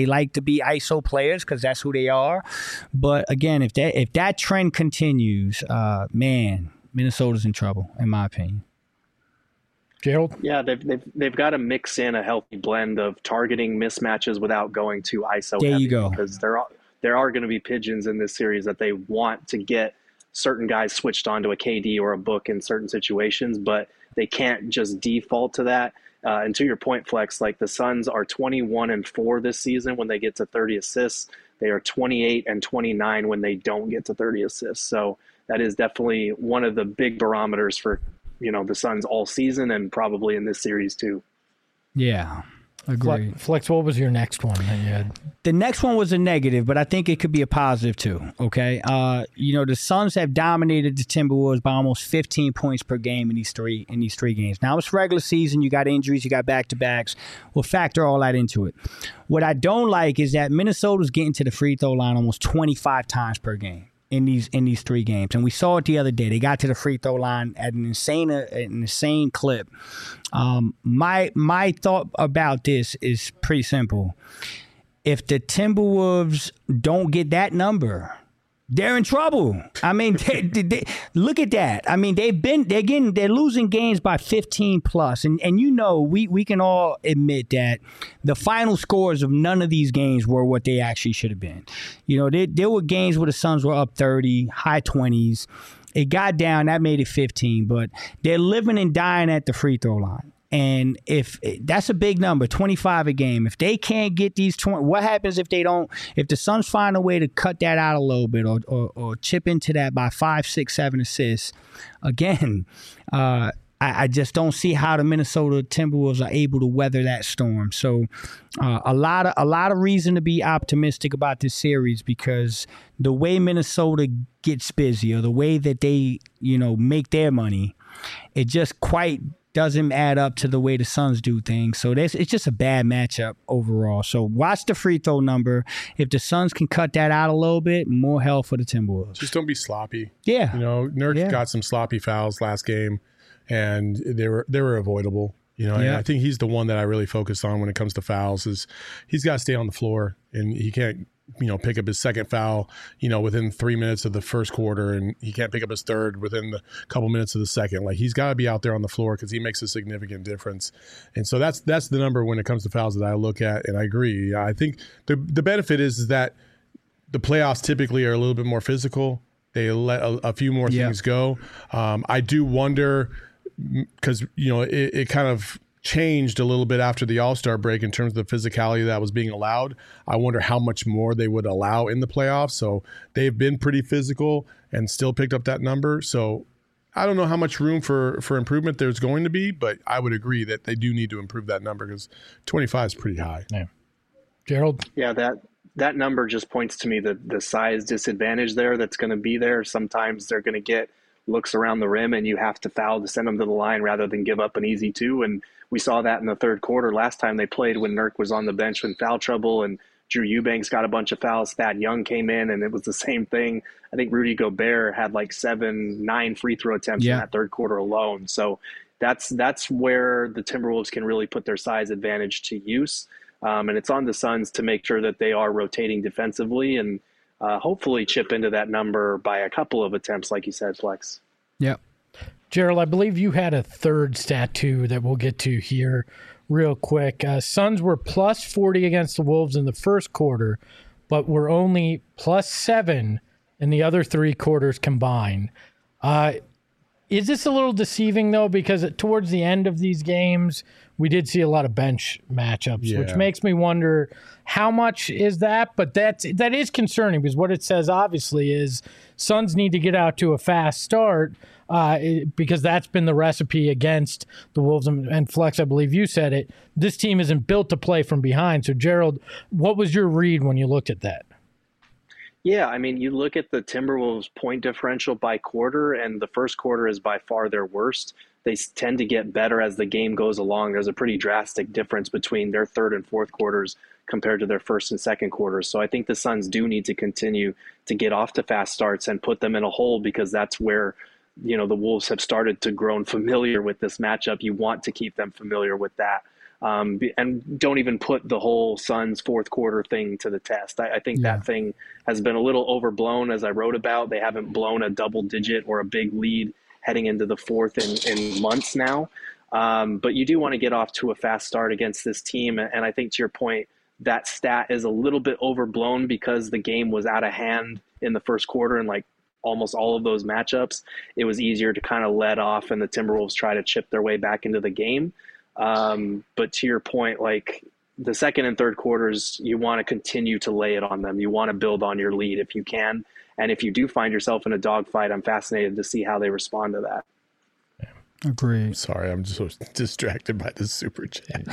ISO players because that's who they are. But again, if that trend continues, man, Minnesota's in trouble, in my opinion. Gerald? Yeah, they've got to mix in a healthy blend of targeting mismatches without going too ISO there heavy. You go. Because there are going to be pigeons in this series that they want to get certain guys switched onto a KD or a Book in certain situations, but they can't just default to that. And to your point, Flex, like the Suns are 21-4 this season when they get to 30 assists. They are 28-29 when they don't get to 30 assists. So that is definitely one of the big barometers for the Suns all season and probably in this series too. Yeah, agreed. Flex, what was your next one that you had? The next one was a negative, but I think it could be a positive too, okay? The Suns have dominated the Timberwolves by almost 15 points per game in these three games. Now, it's regular season. You got injuries. You got back-to-backs. We'll factor all that into it. What I don't like is that Minnesota's getting to the free throw line almost 25 times per game in these 3 games. And we saw it the other day. They got to the free throw line at an insane clip. My thought about this is pretty simple. If the Timberwolves don't get that number, they're in trouble. I mean, they look at that. I mean, they're losing games by 15 plus, and we can all admit that the final scores of none of these games were what they actually should have been. There were games where the Suns were up 30, high 20s. It got down. That made it 15. But they're living and dying at the free throw line. And if that's a big number, 25 a game. If they can't get these 20, what happens if they don't? If the Suns find a way to cut that out a little bit or chip into that by 5, 6, 7 assists, again, I just don't see how the Minnesota Timberwolves are able to weather that storm. So a lot of reason to be optimistic about this series, because the way Minnesota gets busy or the way that they make their money, it just quite doesn't add up to the way the Suns do things. So it's just a bad matchup overall. So watch the free throw number. If the Suns can cut that out a little bit, more hell for the Timberwolves. Just don't be sloppy. Yeah. Nurk got some sloppy fouls last game, and they were avoidable. And I think he's the one that I really focus on when it comes to fouls. Is he's got to stay on the floor, and he can't pick up his second foul, within 3 minutes of the first quarter, and he can't pick up his third within the couple minutes of the second. Like, he's got to be out there on the floor because he makes a significant difference. And so that's the number when it comes to fouls that I look at, and I agree. I think the benefit is that the playoffs typically are a little bit more physical. They let a few more things go. I do wonder, because it kind of changed a little bit after the All-Star break in terms of the physicality that was being allowed. I wonder how much more they would allow in the playoffs. So they've been pretty physical and still picked up that number. So I don't know how much room for improvement there's going to be, but I would agree that they do need to improve that number because 25 is pretty high. Yeah. Gerald? Yeah, that number just points to me the size disadvantage there that's going to be there. Sometimes they're going to get looks around the rim and you have to foul to send them to the line rather than give up an easy two. And we saw that in the third quarter last time they played when Nurk was on the bench in foul trouble and Drew Eubanks got a bunch of fouls. Thad Young came in and it was the same thing. I think Rudy Gobert had like 7-9 free throw attempts in that third quarter alone. So that's where the Timberwolves can really put their size advantage to use. And it's on the Suns to make sure that they are rotating defensively and hopefully chip into that number by a couple of attempts, like you said, Flex. Yep. Gerald, I believe you had a third stat too that we'll get to here real quick. Suns were plus 40 against the Wolves in the first quarter, but were only plus 7 in the other 3 quarters combined. Is this a little deceiving, though? Because towards the end of these games, we did see a lot of bench matchups, which makes me wonder how much is that? But that is concerning because what it says, obviously, is Suns need to get out to a fast start because that's been the recipe against the Wolves. And Flex, I believe you said it, this team isn't built to play from behind. So, Gerald, what was your read when you looked at that? Yeah, I mean, you look at the Timberwolves' point differential by quarter, and the first quarter is by far their worst. They tend to get better as the game goes along. There's a pretty drastic difference between their third and fourth quarters compared to their first and second quarters. So I think the Suns do need to continue to get off to fast starts and put them in a hole because that's where, the Wolves have started to grow familiar with this matchup. You want to keep them familiar with that. And don't even put the whole Suns fourth quarter thing to the test. I think that thing has been a little overblown, as I wrote about. They haven't blown a double digit or a big lead heading into the fourth in months now. But you do want to get off to a fast start against this team. And I think to your point, that stat is a little bit overblown because the game was out of hand in the first quarter and like almost all of those matchups. It was easier to kind of let off and the Timberwolves try to chip their way back into the game. But to your point, like the second and third quarters, you want to continue to lay it on them. You want to build on your lead if you can. And if you do find yourself in a dogfight, I'm fascinated to see how they respond to that. Agreed. Sorry, I'm just so distracted by the super chat.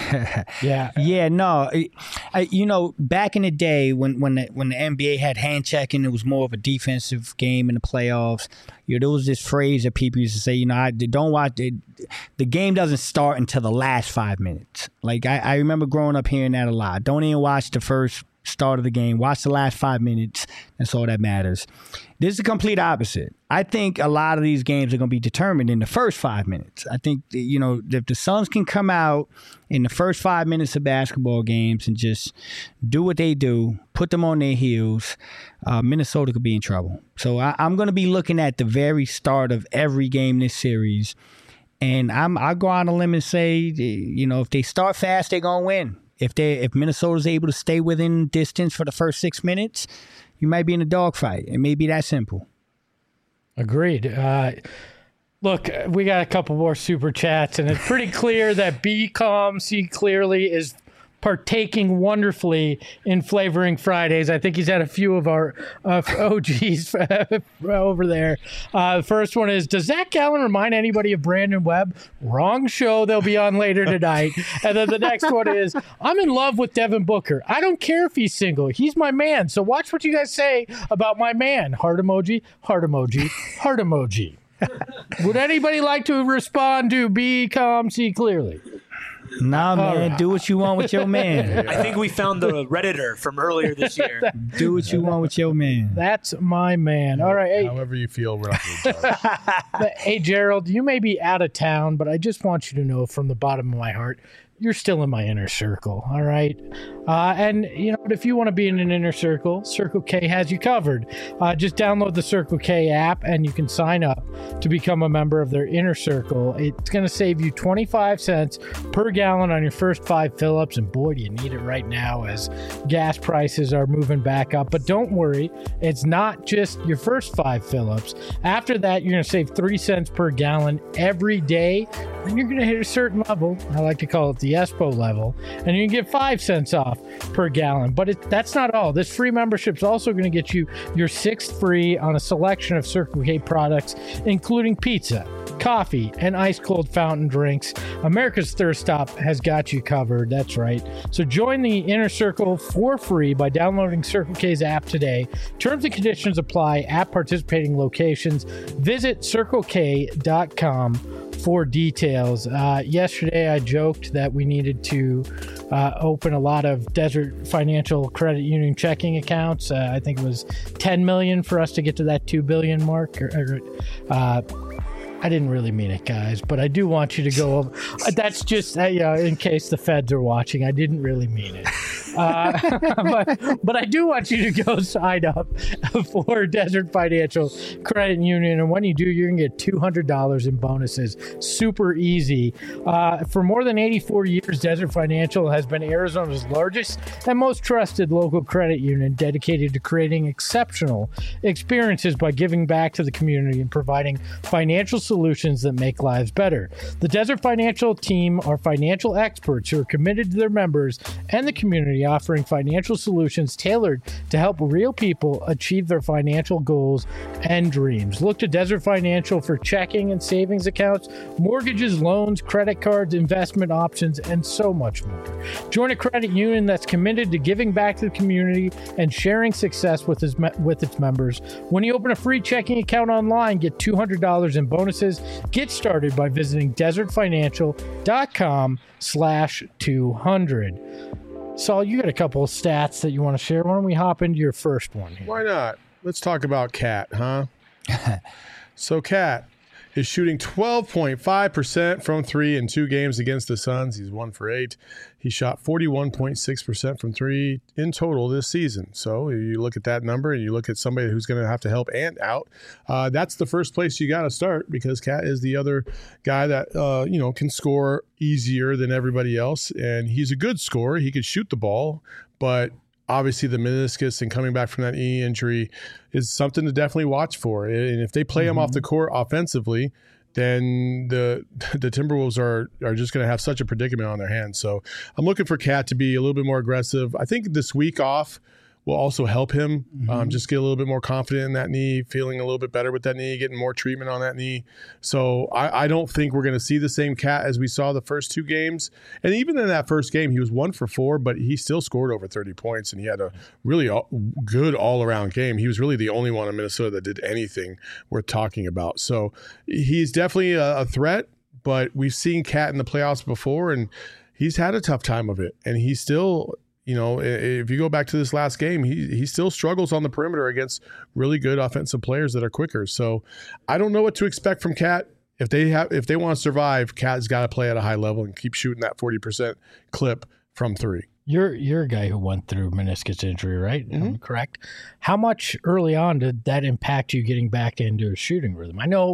Back in the day when the NBA had hand checking, it was more of a defensive game in the playoffs. There was this phrase that people used to say, don't watch it. The game doesn't start until the last 5 minutes. Like I remember growing up hearing that a lot. Don't even watch the first start of the game. Watch the last 5 minutes. That's all that matters. This is the complete opposite. I think a lot of these games are going to be determined in the first 5 minutes. I think, if the Suns can come out in the first 5 minutes of basketball games and just do what they do, put them on their heels, Minnesota could be in trouble. So I'm going to be looking at the very start of every game this series. And I'll go on a limb and say, if they start fast, they're going to win. If Minnesota's able to stay within distance for the first 6 minutes, you might be in a dogfight. It may be that simple. Agreed. Look, we got a couple more super chats, and it's pretty clear that Be Calm, See Clearly is partaking wonderfully in Flavoring Fridays. I think he's had a few of our OGs over there. The first one is, does Zach Gallen remind anybody of Brandon Webb? Wrong show they'll be on later tonight. And then the next one is, I'm in love with Devin Booker. I don't care if he's single. He's my man. So watch what you guys say about my man. Heart emoji, heart emoji, heart emoji. Would anybody like to respond to Be Calm, See Clearly? Nah, man, do what you want with your man. I think we found the Redditor from earlier this year. Do what you want with your man. That's my man. All right. Hey, however you feel, we're not going to judge. Hey, Gerald, you may be out of town, but I just want you to know from the bottom of my heart, you're still in my inner circle, all right? And, you know, if you want to be in an inner circle, Circle K has you covered. Just download the Circle K app, and you can sign up to become a member of their inner circle. It's going to save you 25 cents per gallon on your first 5 fill-ups, and boy, do you need it right now as gas prices are moving back up. But don't worry, it's not just your first 5 fill-ups. After that, you're going to save 3 cents per gallon every day, and you're going to hit a certain level. I like to call it the ESPO level, and you can get 5 cents off per gallon. But that's not all. This free membership is also going to get you your 6th free on a selection of Circle K products, including pizza, coffee, and ice-cold fountain drinks. America's Thirst Stop has got you covered. That's right. So join the Inner Circle for free by downloading Circle K's app today. Terms and conditions apply at participating locations. Visit CircleK.com for details. Yesterday, I joked that we needed to open a lot of Desert Financial Credit Union checking accounts. I think it was 10 million for us to get to that 2 billion mark. I didn't really mean it, guys, but I do want you to go over. That's just, in case the feds are watching, I didn't really mean it. But I do want you to go sign up for Desert Financial Credit Union. And when you do, you're going to get $200 in bonuses. Super easy. For more than 84 years, Desert Financial has been Arizona's largest and most trusted local credit union, dedicated to creating exceptional experiences by giving back to the community and providing financial solutions that make lives better. The Desert Financial team are financial experts who are committed to their members and the community, offering financial solutions tailored to help real people achieve their financial goals and dreams. Look to Desert Financial for checking and savings accounts, mortgages, loans, credit cards, investment options, and so much more. Join a credit union that's committed to giving back to the community and sharing success with its members. When you open a free checking account online, get $200 in bonuses. Get started by visiting desertfinancial.com/200. Saul, you got a couple of stats that you want to share. Why don't we hop into your first one here? Why not? Let's talk about Cat, huh? So Cat is shooting 12.5% from 3 in 2 games against the Suns. He's 1 for 8. He shot 41.6% from 3 in total this season. So you look at that number and you look at somebody who's going to have to help Ant out. That's the first place you got to start, because Cat is the other guy that can score easier than everybody else, and he's a good scorer. He could shoot the ball, but obviously the meniscus and coming back from that knee injury is something to definitely watch for. And if they play him off the court offensively, then the Timberwolves are just going to have such a predicament on their hands. So I'm looking for Cat to be a little bit more aggressive. I think this week off will also help him just get a little bit more confident in that knee, feeling a little bit better with that knee, getting more treatment on that knee. So I don't think we're going to see the same Cat as we saw the first 2 games. And even in that first game, he was 1 for 4, but he still scored over 30 points, and he had a really good all-around game. He was really the only one in Minnesota that did anything worth talking about. So he's definitely a threat, but we've seen Cat in the playoffs before, and he's had a tough time of it. And he's still... if you go back to this last game, he still struggles on the perimeter against really good offensive players that are quicker. So I don't know what to expect from Cat. If they want to survive, Cat's got to play at a high level and keep shooting that 40% clip from 3. You're a guy who went through meniscus injury, right? Mm-hmm. Correct. How much early on did that impact you getting back into a shooting rhythm? I know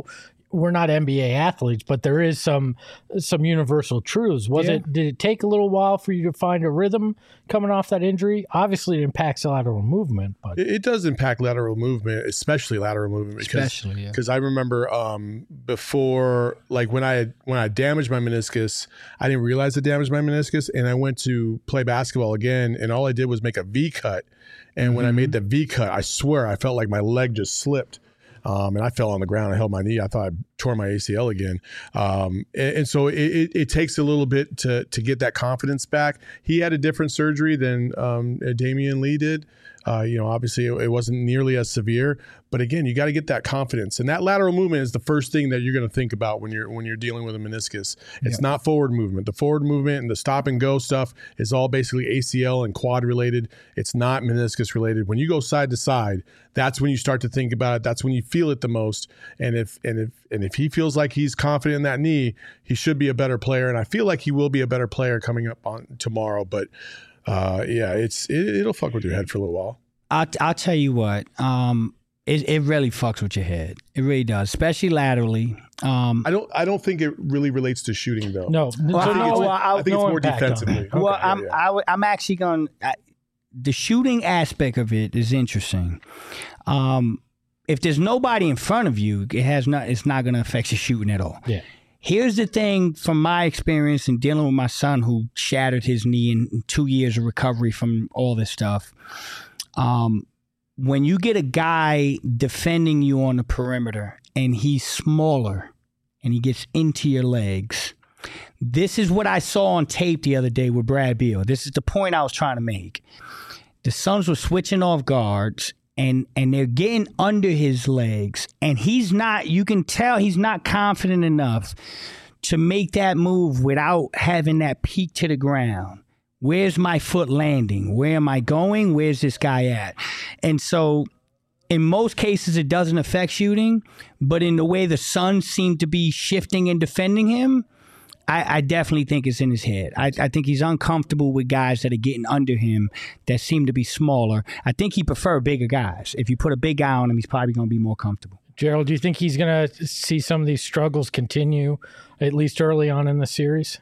we're not NBA athletes, but there is some universal truths. Did it take a little while for you to find a rhythm coming off that injury? Obviously, it impacts lateral movement, but it does impact lateral movement, especially lateral movement. Because I remember before, like when I damaged my meniscus, I didn't realize I damaged my meniscus, and I went to play basketball again, and all I did was make a V cut. And when I made the V cut, I swear I felt like my leg just slipped. And I fell on the ground. I held my knee. I thought I tore my ACL again. And so it takes a little bit to get that confidence back. He had a different surgery than Damian Lee did. Obviously it wasn't nearly as severe. But again, you got to get that confidence. And that lateral movement is the first thing that you're going to think about when you're dealing with a meniscus. It's not forward movement. The forward movement and the stop and go stuff is all basically ACL and quad related. It's not meniscus related. When you go side to side, that's when you start to think about it. That's when you feel it the most. And if he feels like he's confident in that knee, he should be a better player. And I feel like he will be a better player coming up on tomorrow. But it'll fuck with your head for a little while. I'll tell you what. It really fucks with your head. It really does, especially laterally. I don't think it really relates to shooting though. No, I think it's more defensively. I'm actually going. The shooting aspect of it is interesting. If there's nobody in front of you, it's not going to affect your shooting at all. Yeah. Here's the thing from my experience in dealing with my son who shattered his knee in 2 years of recovery from all this stuff. When you get a guy defending you on the perimeter and he's smaller and he gets into your legs, this is what I saw on tape the other day with Brad Beal. This is the point I was trying to make. The Suns were switching off guards and they're getting under his legs, and you can tell he's not confident enough to make that move without having that peak to the ground. Where's my foot landing? Where am I going? Where's this guy at? And so in most cases, it doesn't affect shooting, but in the way the Suns seem to be shifting and defending him, I definitely think it's in his head. I think he's uncomfortable with guys that are getting under him that seem to be smaller. I think he prefers bigger guys. If you put a big guy on him, he's probably going to be more comfortable. Gerald, do you think he's going to see some of these struggles continue, at least early on in the series?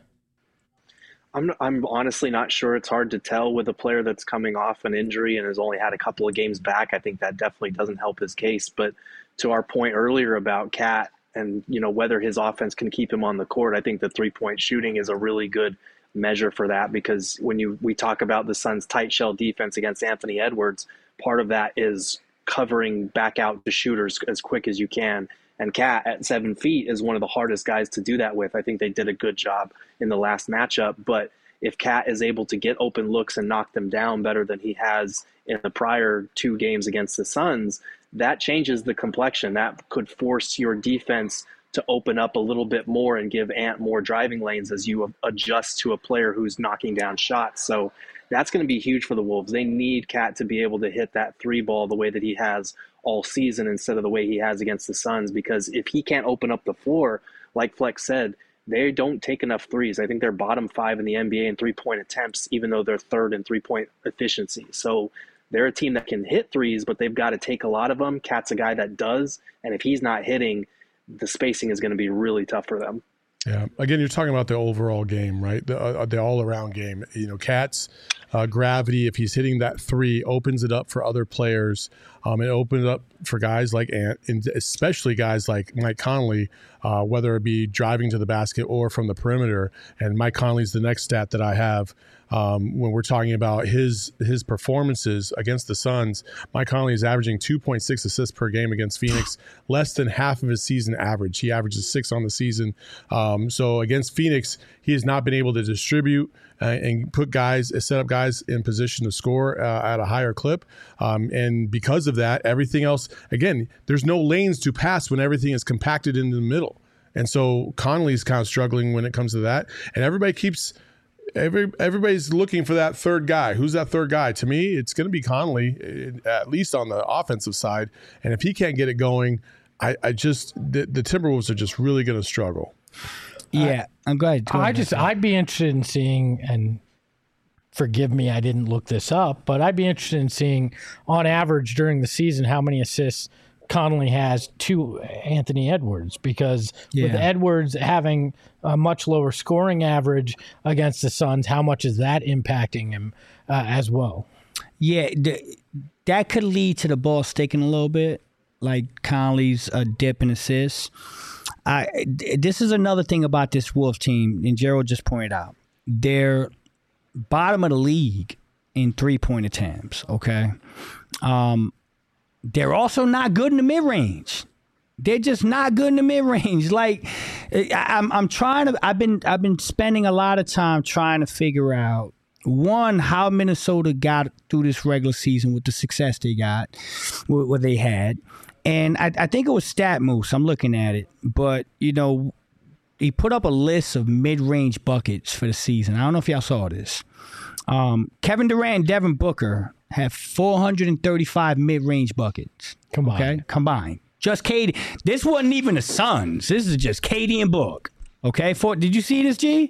I'm honestly not sure. It's hard to tell with a player that's coming off an injury and has only had a couple of games back. I think that definitely doesn't help his case. But to our point earlier about Cat and whether his offense can keep him on the court, I think the 3-point shooting is a really good measure for that, because when we talk about the Suns' tight shell defense against Anthony Edwards, part of that is covering back out the shooters as quick as you can. And Cat at 7 feet is one of the hardest guys to do that with. I think they did a good job in the last matchup. But if Cat is able to get open looks and knock them down better than he has in the prior 2 games against the Suns, that changes the complexion. That could force your defense to open up a little bit more and give Ant more driving lanes as you adjust to a player who's knocking down shots. So that's going to be huge for the Wolves. They need Cat to be able to hit that 3 ball the way that he has all season instead of the way he has against the Suns, because if he can't open up the floor, like Flex said, they don't take enough threes. I think they're bottom 5 in the NBA in 3-point attempts, even though they're 3rd in 3-point efficiency. So they're a team that can hit threes, but they've got to take a lot of them. Cat's a guy that does, and if he's not hitting, the spacing is going to be really tough for them. Yeah. Again, you're talking about the overall game, right? The all-around game. Cat's gravity, if he's hitting that 3, opens it up for other players. It opens it up for guys like Ant, and especially guys like Mike Conley, whether it be driving to the basket or from the perimeter. And Mike Conley's the next stat that I have. When we're talking about his performances against the Suns, Mike Conley is averaging 2.6 assists per game against Phoenix, less than half of his season average. He averages 6 on the season. So against Phoenix, he has not been able to distribute and set up guys in position to score at a higher clip. And because of that, everything else, again, there's no lanes to pass when everything is compacted into the middle. And so Conley's kind of struggling when it comes to that. And everybody's looking for that third guy. Who's that third guy? To me, it's going to be Conley, at least on the offensive side. And if he can't get it going, the Timberwolves are just really going to struggle. Yeah, I'm glad. I'd be interested in seeing, and forgive me, I didn't look this up, but I'd be interested in seeing, on average during the season, how many assists Conley has to Anthony Edwards, because with Edwards having a much lower scoring average against the Suns, how much is that impacting him as well? Yeah, that could lead to the ball sticking a little bit, like Conley's dip in assists. This is another thing about this Wolves team, and Gerald just pointed out. They're bottom of the league in three-point attempts, okay? They're also not good in the mid-range. They're just not good in the mid-range. Like, I'm trying to. I've been spending a lot of time trying to figure out, one, how Minnesota got through this regular season with the success they got, what they had, and I think it was StatMoose. I'm looking at it, but he put up a list of mid-range buckets for the season. I don't know if y'all saw this. Kevin Durant and Devin Booker have 435 mid-range buckets. Combined. Just KD. This wasn't even the Suns. This is just KD and Book. Okay? Did you see this, G?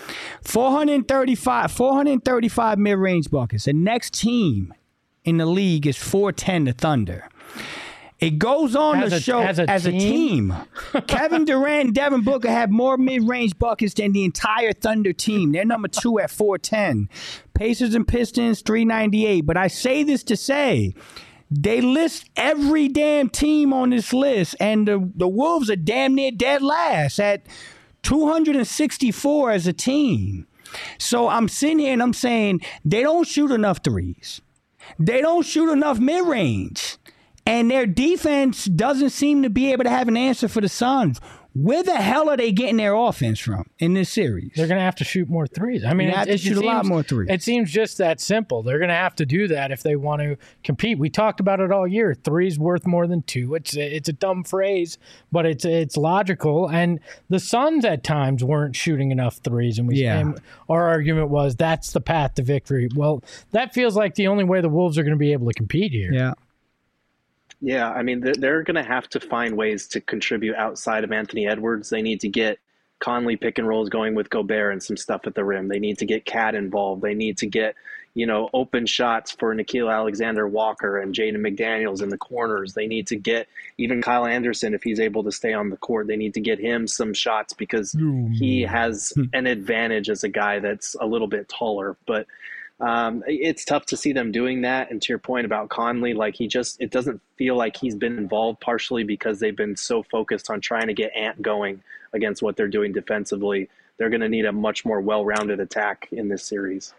435 mid-range buckets. The next team in the league is 410, the Thunder. It goes on to show as a team. Kevin Durant and Devin Booker have more mid-range buckets than the entire Thunder team. They're number 2 at 410. Pacers and Pistons, 398. But I say this to say, they list every damn team on this list, and the Wolves are damn near dead last at 264 as a team. So I'm sitting here and I'm saying they don't shoot enough threes. They don't shoot enough mid-range. And their defense doesn't seem to be able to have an answer for the Suns. Where the hell are they getting their offense from in this series? They're going to have to shoot more threes. I mean, they have to shoot a lot more threes. It seems just that simple. They're going to have to do that if they want to compete. We talked about it all year. 3's worth more than 2. It's a dumb phrase, but it's logical. And the Suns at times weren't shooting enough threes, and our argument was that's the path to victory. Well, that feels like the only way the Wolves are going to be able to compete here. Yeah. Yeah, I mean, they're going to have to find ways to contribute outside of Anthony Edwards. They need to get Conley pick and rolls going with Gobert and some stuff at the rim. They need to get Cat involved. They need to get, open shots for Nickeil Alexander-Walker and Jaden McDaniels in the corners. They need to get even Kyle Anderson, if he's able to stay on the court. They need to get him some shots because he has an advantage as a guy that's a little bit taller. But it's tough to see them doing that. And to your point about Conley, it doesn't feel like he's been involved, partially because they've been so focused on trying to get Ant going against what they're doing defensively. They're going to need a much more well-rounded attack in this series.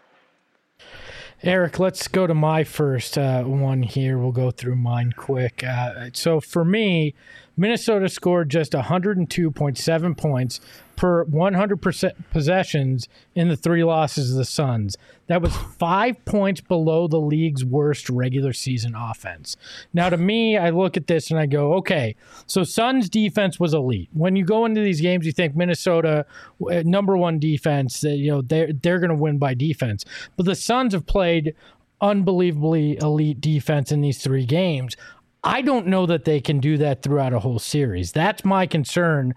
Eric, let's go to my first one here. We'll go through mine quick. So for me, Minnesota scored just 102.7 points per 100% possessions in the 3 losses of the Suns. That was 5 points below the league's worst regular season offense. Now, to me, I look at this and I go, okay, so Suns defense was elite. When you go into these games, you think Minnesota, number 1 defense, they're going to win by defense. But the Suns have played unbelievably elite defense in these 3 games. I don't know that they can do that throughout a whole series. That's my concern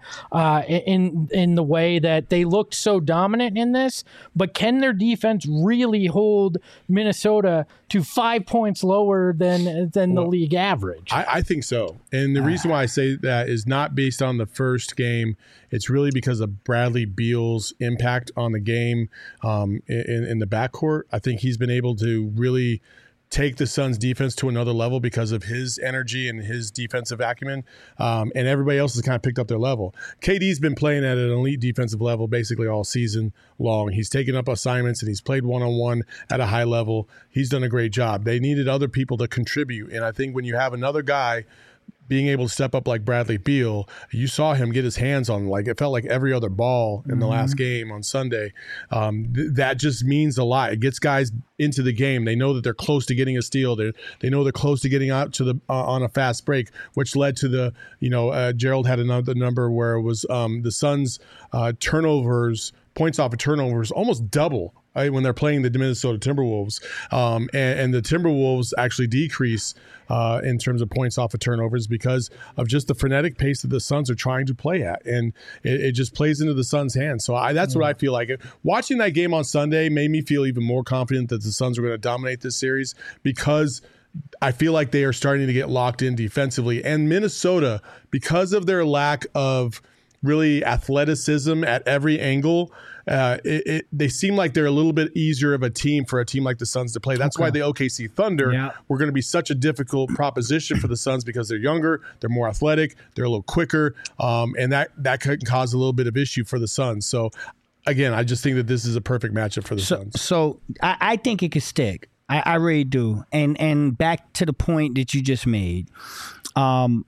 in the way that they looked so dominant in this. But can their defense really hold Minnesota to 5 points lower than the league average? I think so. And the reason why I say that is not based on the first game. It's really because of Bradley Beal's impact on the game in the backcourt. I think he's been able to really take the Suns defense to another level because of his energy and his defensive acumen. And everybody else has kind of picked up their level. KD's been playing at an elite defensive level basically all season long. He's taken up assignments and he's played one-on-one at a high level. He's done a great job. They needed other people to contribute. And I think when you have another guy being able to step up like Bradley Beal, you saw him get his hands on, it felt like every other ball in the last game on Sunday. That just means a lot. It gets guys into the game. They know that they're close to getting a steal. They know they're close to getting out to the on a fast break, which led to the, Gerald had another number where it was the Suns turnovers, points off of turnovers, almost double when they're playing the Minnesota Timberwolves. And the Timberwolves actually decrease in terms of points off of turnovers because of just the frenetic pace that the Suns are trying to play at. And it just plays into the Suns' hands. So that's what I feel like. Watching that game on Sunday made me feel even more confident that the Suns are going to dominate this series because I feel like they are starting to get locked in defensively. And Minnesota, because of their lack of really athleticism at every angle, they seem like they're a little bit easier of a team for a team like the Suns to play. That's why the OKC Thunder were going to be such a difficult proposition for the Suns, because they're younger, they're more athletic, they're a little quicker, and that could cause a little bit of issue for the Suns. So, again, I just think that this is a perfect matchup for the Suns. So I think it could stick. I really do. And back to the point that you just made, the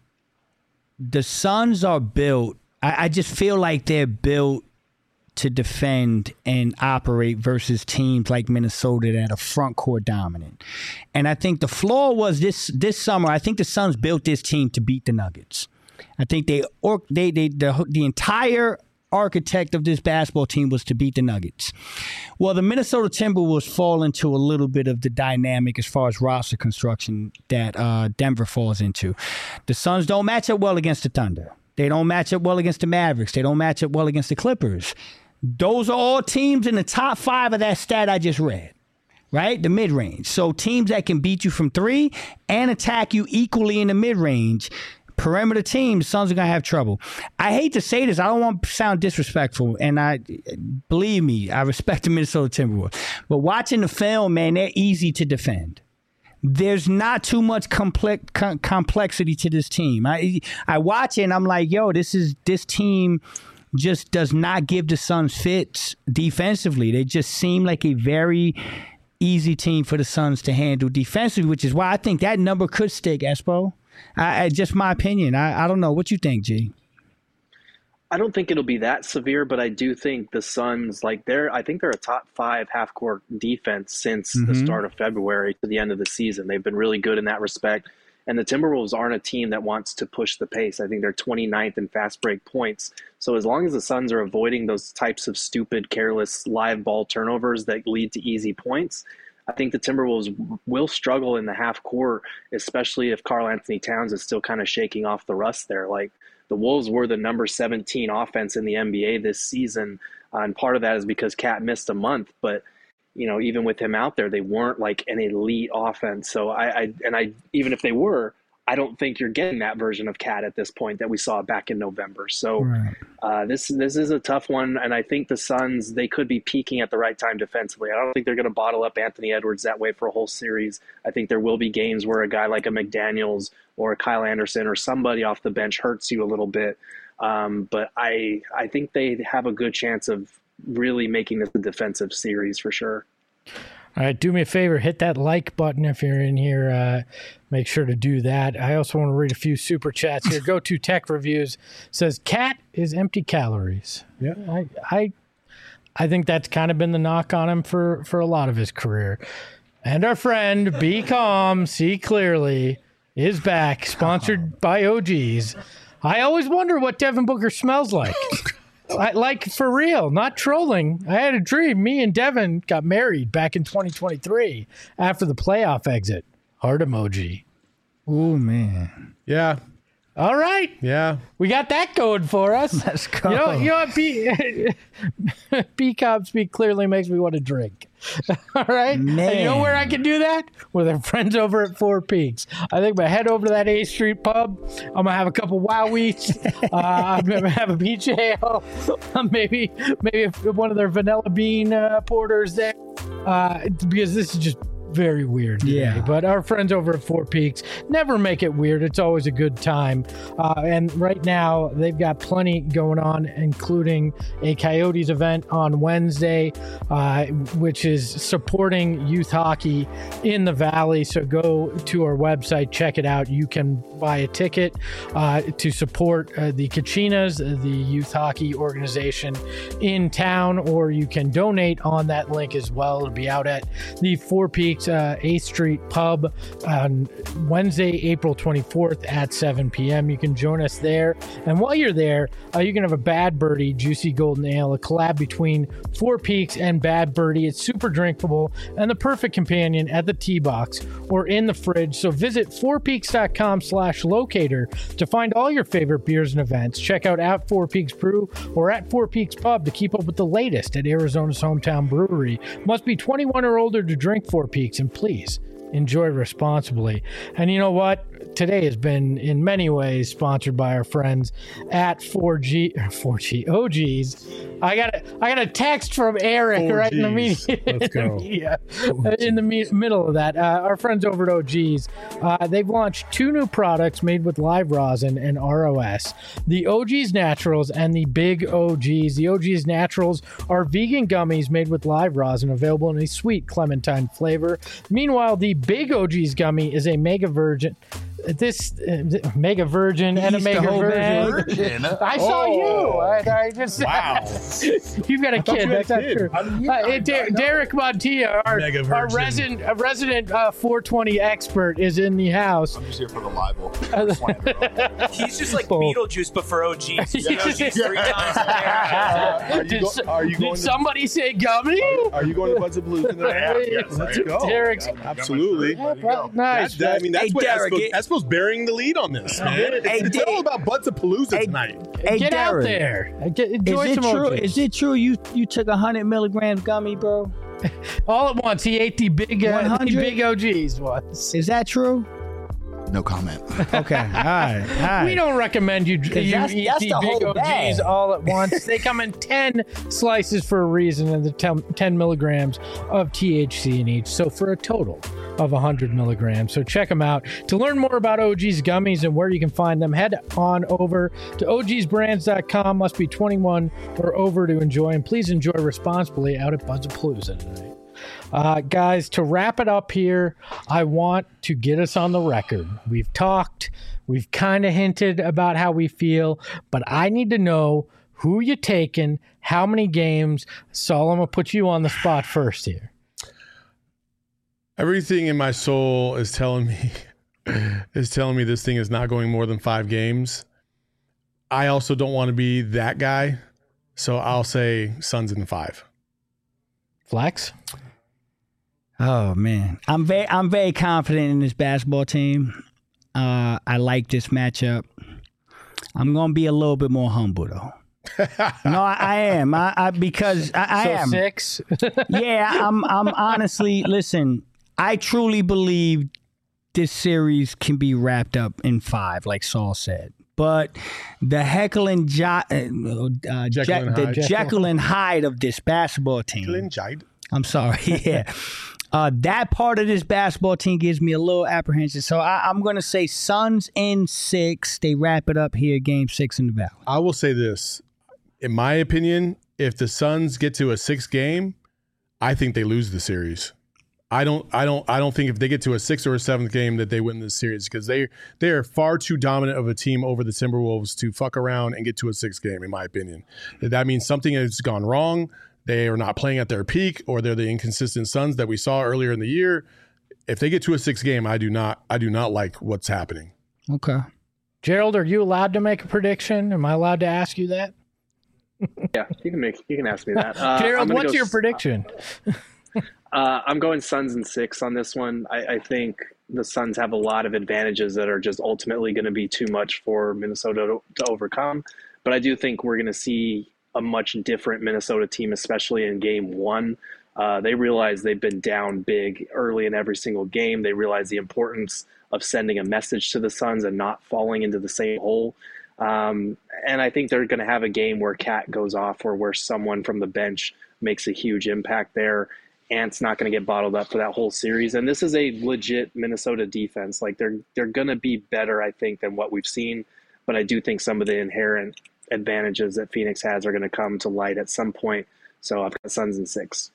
Suns are built. I just feel like they're built to defend and operate versus teams like Minnesota that are front court dominant. And I think the flaw was this summer, I think the Suns built this team to beat the Nuggets. I think the entire architect of this basketball team was to beat the Nuggets. Well, the Minnesota Timberwolves fall into a little bit of the dynamic as far as roster construction that Denver falls into. The Suns don't match up well against the Thunder. They don't match up well against the Mavericks. They don't match up well against the Clippers. Those are all teams in the top 5 of that stat I just read, right? The mid-range. So teams that can beat you from 3 and attack you equally in the mid-range. Perimeter teams, Suns are going to have trouble. I hate to say this. I don't want to sound disrespectful, and believe me, I respect the Minnesota Timberwolves. But watching the film, man, they're easy to defend. There's not too much complexity to this team. I watch it and I'm like, yo, this team just does not give the Suns fits defensively. They just seem like a very easy team for the Suns to handle defensively, which is why I think that number could stick, Espo. Just my opinion. I don't know. What you think, G? I don't think it'll be that severe, but I do think the Suns, I think they're a top 5 half-court defense since the start of February to the end of the season. They've been really good in that respect. And the Timberwolves aren't a team that wants to push the pace. I think they're 29th in fast break points. So as long as the Suns are avoiding those types of stupid, careless live ball turnovers that lead to easy points, I think the Timberwolves will struggle in the half court, especially if Karl Anthony Towns is still kind of shaking off the rust there. The Wolves were the number 17 offense in the NBA this season, and part of that is because Cat missed a month. But even with him out there, they weren't like an elite offense. So even if they were, I don't think you're getting that version of Cat at this point that we saw back in November. So this is a tough one, and I think the Suns, they could be peaking at the right time defensively. I don't think they're going to bottle up Anthony Edwards that way for a whole series. I think there will be games where a guy like a McDaniels or a Kyle Anderson or somebody off the bench hurts you a little bit. But I think they have a good chance of really making this a defensive series for sure. All right, do me a favor, hit that like button if you're in here. Make sure to do that. I also want to read a few super chats here. Go to Tech Reviews. Says, Cat is empty calories. Yeah. I think that's kind of been the knock on him for a lot of his career. And our friend, Be Calm, See Clearly, is back, sponsored by OGs. I always wonder what Devin Booker smells like. For real, not trolling. I had a dream. Me and Devin got married back in 2023 after the playoff exit. Heart emoji. Oh, man. Yeah. All right. Yeah. We got that going for us. Let's go. You know what? B-Cobb Speak Clearly makes me want to drink. All right? Man. And you know where I can do that? With our friends over at Four Peaks. I think I'm going to head over to that 8th Street pub. I'm going to have a couple Wowies. I'm going to have a peach ale. Maybe one of their vanilla bean porters there. Because this is just very weird today. Yeah. But our friends over at Four Peaks never make it weird. It's always a good time. And right now, they've got plenty going on, including a Coyotes event on Wednesday, which is supporting youth hockey in the Valley. So go to our website, check it out. You can buy a ticket to support the Kachinas, the youth hockey organization in town, or you can donate on that link as well. It'll be out at the Four Peaks 8th Street Pub on Wednesday, April 24th at 7 p.m. You can join us there. And while you're there, you can have a Bad Birdie Juicy Golden Ale, a collab between Four Peaks and Bad Birdie. It's super drinkable and the perfect companion at the tee box or in the fridge. So visit fourpeaks.com/locator to find all your favorite beers and events. Check out at Four Peaks Brew or at Four Peaks Pub to keep up with the latest at Arizona's hometown brewery. Must be 21 or older to drink Four Peaks, and please enjoy responsibly. And you know what? Today has been in many ways sponsored by our friends at 4G OGs. I got a text from Eric 4Gs. right in the media. Let's go. In the middle of that. Our friends over at OGs, they've launched 2 new products made with live rosin and ROS. The OGs Naturals and the Big OGs. The OGs Naturals are vegan gummies made with live rosin, available in a sweet clementine flavor. Meanwhile, the Big OGs gummy is a mega virgin. Mega virgin and a mega virgin. I saw you. I just Wow. You've got a kid. That's not true. Derek Montilla, our resident 420 expert, is in the house. I'm just here for the libel. He's just like Beetlejuice, but for OGs. He's OGs 3 times a year. Did somebody say gummy? Are you going to Buds of Blues in the Yes, let's go. Derek's Absolutely. nice. That's Derek, Espo's bearing the lead on this, man. It's all about Buds of Palooza tonight. Get out there. Enjoy some OGs. Is it true you took 100 milligrams gummy, bro? All at once, he ate the big OGs once. Is that true? No comment. Okay. All right. We don't recommend you eat that's the the big whole OGs bag. all at once. They come in 10 slices for a reason, and the 10 milligrams of THC in each. So for a total of 100 milligrams. So check them out. To learn more about OG's gummies and where you can find them, head on over to ogsbrands.com. Must be 21 or over to enjoy. And please enjoy responsibly out at Buds of Palooza tonight. Guys, to wrap it up here, I want to get us on the record. We've talked, we've kind of hinted about how we feel, but I need to know who you taking, how many games. Saul, I'm going to put you on the spot first here. Everything in my soul is telling me this thing is not going more than 5 games. I also don't want to be that guy, so I'll say Suns in 5. Flex? Oh man, I'm very confident in this basketball team. I like this matchup. I'm gonna be a little bit more humble though. No, I am. Because I am 6. Yeah, I'm honestly, listen, I truly believe this series can be wrapped up in 5, like Saul said. But the Jekyll and Hyde of this basketball team. I'm sorry. Yeah. That part of this basketball team gives me a little apprehension. So I'm going to say Suns in 6. They wrap it up here, game 6 in the Valley. I will say this. In my opinion, if the Suns get to a 6th game, I think they lose the series. I don't think if they get to a 6th or a 7th game that they win this series, because they are far too dominant of a team over the Timberwolves to fuck around and get to a 6th game, in my opinion. That means something has gone wrong. They are not playing at their peak, or they're the inconsistent Suns that we saw earlier in the year. If they get to a 6th game, I do not like what's happening. Okay. Gerald, are you allowed to make a prediction? Am I allowed to ask you that? Yeah, you can ask me that. Gerald, what's your prediction? I'm going Suns in 6 on this one. I think the Suns have a lot of advantages that are just ultimately going to be too much for Minnesota to overcome. But I do think we're going to see a much different Minnesota team, especially in game 1. They realize they've been down big early in every single game. They realize the importance of sending a message to the Suns and not falling into the same hole. And I think they're going to have a game where Cat goes off, or where someone from the bench makes a huge impact there. Ant's not going to get bottled up for that whole series. And this is a legit Minnesota defense. Like they're going to be better, I think, than what we've seen. But I do think some of the inherent advantages that Phoenix has are going to come to light at some point. So I've got Suns in 6.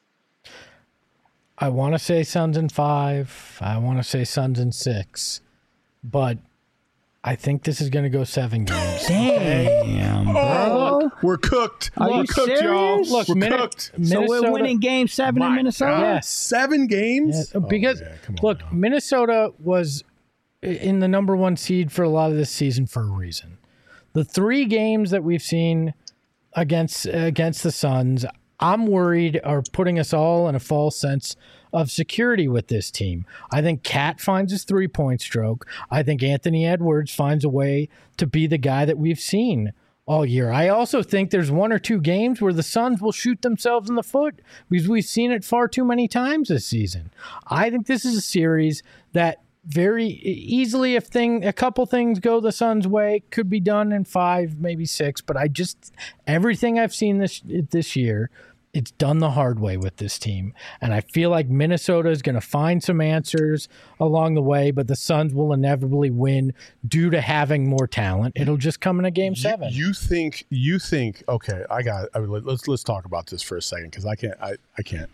I want to say Suns in 5. I want to say Suns in 6. But I think this is going to go 7 games. Damn, bro. We're cooked. Are you cooked, y'all. serious? Look, We're cooked. So we're winning game 7 in Minnesota? Yes. 7 games? Yeah, because, look, Minnesota was in the number 1 seed for a lot of this season for a reason. The 3 games that we've seen against the Suns, I'm worried are putting us all in a false sense of security with this team. I think Cat finds his 3-point stroke. I think Anthony Edwards finds a way to be the guy that we've seen all year. I also think there's one or two games where the Suns will shoot themselves in the foot because we've seen it far too many times this season. I think this is a series that very easily, if a couple things go the Suns' way, could be done in 5, maybe 6. But everything I've seen this year, it's done the hard way with this team. And I feel like Minnesota is going to find some answers along the way, but the Suns will inevitably win due to having more talent. It'll just come in a game 7. You think, okay, let's talk about this for a second because I can't.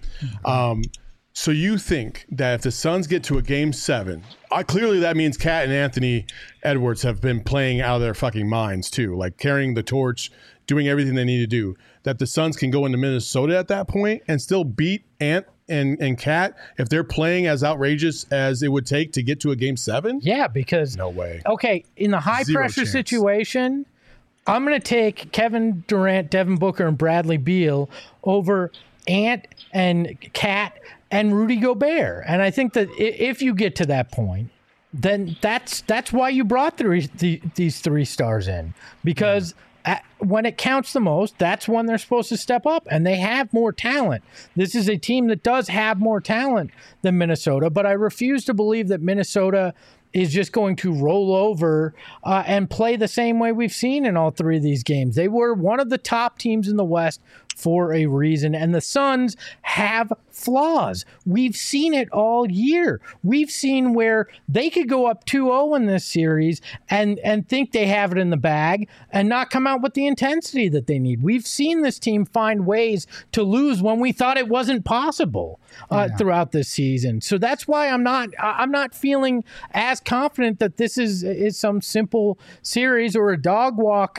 So you think that if the Suns get to a game 7, clearly that means Cat and Anthony Edwards have been playing out of their fucking minds too, like carrying the torch, doing everything they need to do, that the Suns can go into Minnesota at that point and still beat Ant and Cat if they're playing as outrageous as it would take to get to a game 7? Yeah, because no way. Okay, in the high-pressure situation, I'm going to take Kevin Durant, Devin Booker, and Bradley Beal over Ant and Cat and Rudy Gobert. And I think that if you get to that point, then that's why you brought these 3 stars in, because when it counts the most, that's when they're supposed to step up, and they have more talent. This is a team that does have more talent than Minnesota, but I refuse to believe that Minnesota is just going to roll over and play the same way we've seen in all 3 of these games. They were one of the top teams in the West for a reason, and the Suns have flaws. We've seen it all year. We've seen where they could go up 2-0 in this series and think they have it in the bag and not come out with the intensity that they need. We've seen this team find ways to lose when we thought it wasn't possible throughout this season. So that's why I'm not feeling as confident that this is some simple series or a dog walk,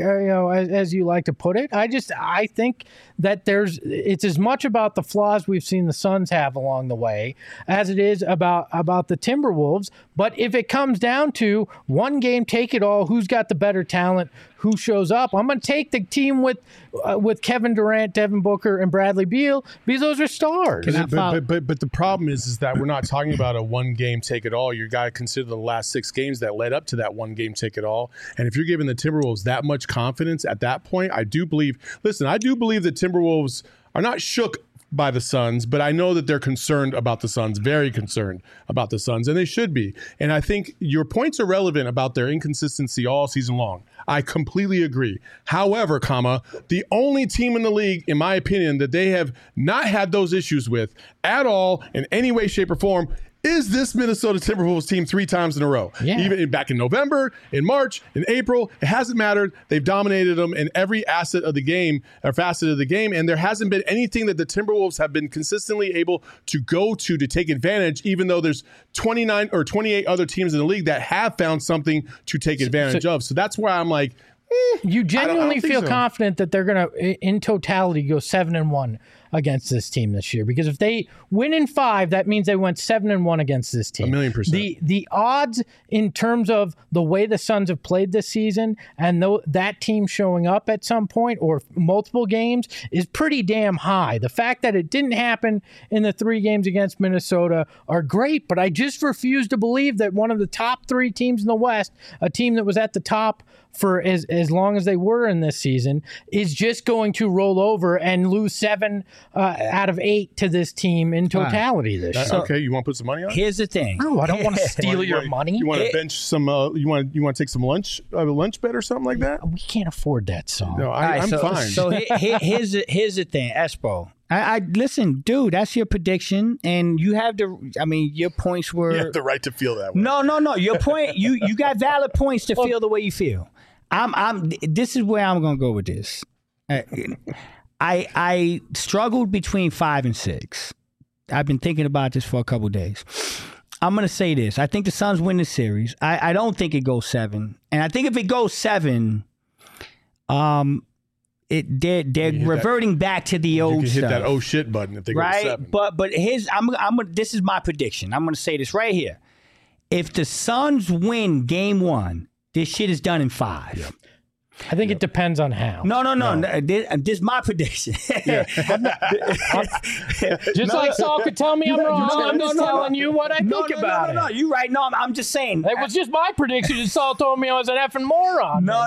as you like to put it. I think that it's as much about the flaws we've seen the Suns have along the way as it is about the Timberwolves. But if it comes down to one game, take it all, who's got the better talent, who shows up, I'm going to take the team with Kevin Durant, Devin Booker, and Bradley Beal because those are stars. But the problem is that we're not talking about a one game take it all. You got to consider the last 6 games that led up to that one game take it all. And if you're giving the Timberwolves that much confidence at that point, I do believe the Timberwolves are not shook by the Suns, but I know that they're concerned about the Suns, very concerned about the Suns, and they should be. And I think your points are relevant about their inconsistency all season long. I completely agree. However, the only team in the league, in my opinion, that they have not had those issues with at all in any way, shape, or form is this Minnesota Timberwolves team 3 times in a row. Yeah. Even back in November, in March, in April, it hasn't mattered. They've dominated them in every asset of the game, or facet of the game, and there hasn't been anything that the Timberwolves have been consistently able to go to take advantage, even though there's 29 or 28 other teams in the league that have found something to take advantage of. So that's why I'm like, you genuinely feel confident that they're going to, in totality, go 7-1 against this team this year, because if they win in 5, that means they went 7-1 against this team. 1,000,000%. The odds in terms of the way the Suns have played this season and that team showing up at some point or multiple games is pretty damn high. The fact that it didn't happen in the 3 games against Minnesota are great, but I just refuse to believe that one of the top 3 teams in the West, a team that was at the top for as long as they were in this season, is just going to roll over and lose 7 out of 8 to this team in totality this year. Okay, you want to put some money on it? Here's the thing. No, I don't want to steal your money. You want to bench some? You want to take some lunch bet or something like that? We can't afford that song. No, I'm fine. So here's the thing, Espo. I listen, dude. That's your prediction, and you have your points were. You have the right to feel that way. No. Your point. You got valid points to feel the way you feel. This is where I'm gonna go with this. I struggled between 5 and 6. I've been thinking about this for a couple of days. I'm gonna say this. I think the Suns win the series. I don't think it goes 7, and I think if it goes 7, they're reverting back to the old stuff. You can hit that oh shit button if they go 7. But this is my prediction. I'm gonna say this right here. If the Suns win game 1, this shit is done in 5. Yep. I think it depends on how. No. This is my prediction. Just like Saul could tell me I'm wrong. I'm just telling you what I think about it. No, you're right. No, I'm just saying. It was just my prediction. And Saul told me I was an effing moron. No.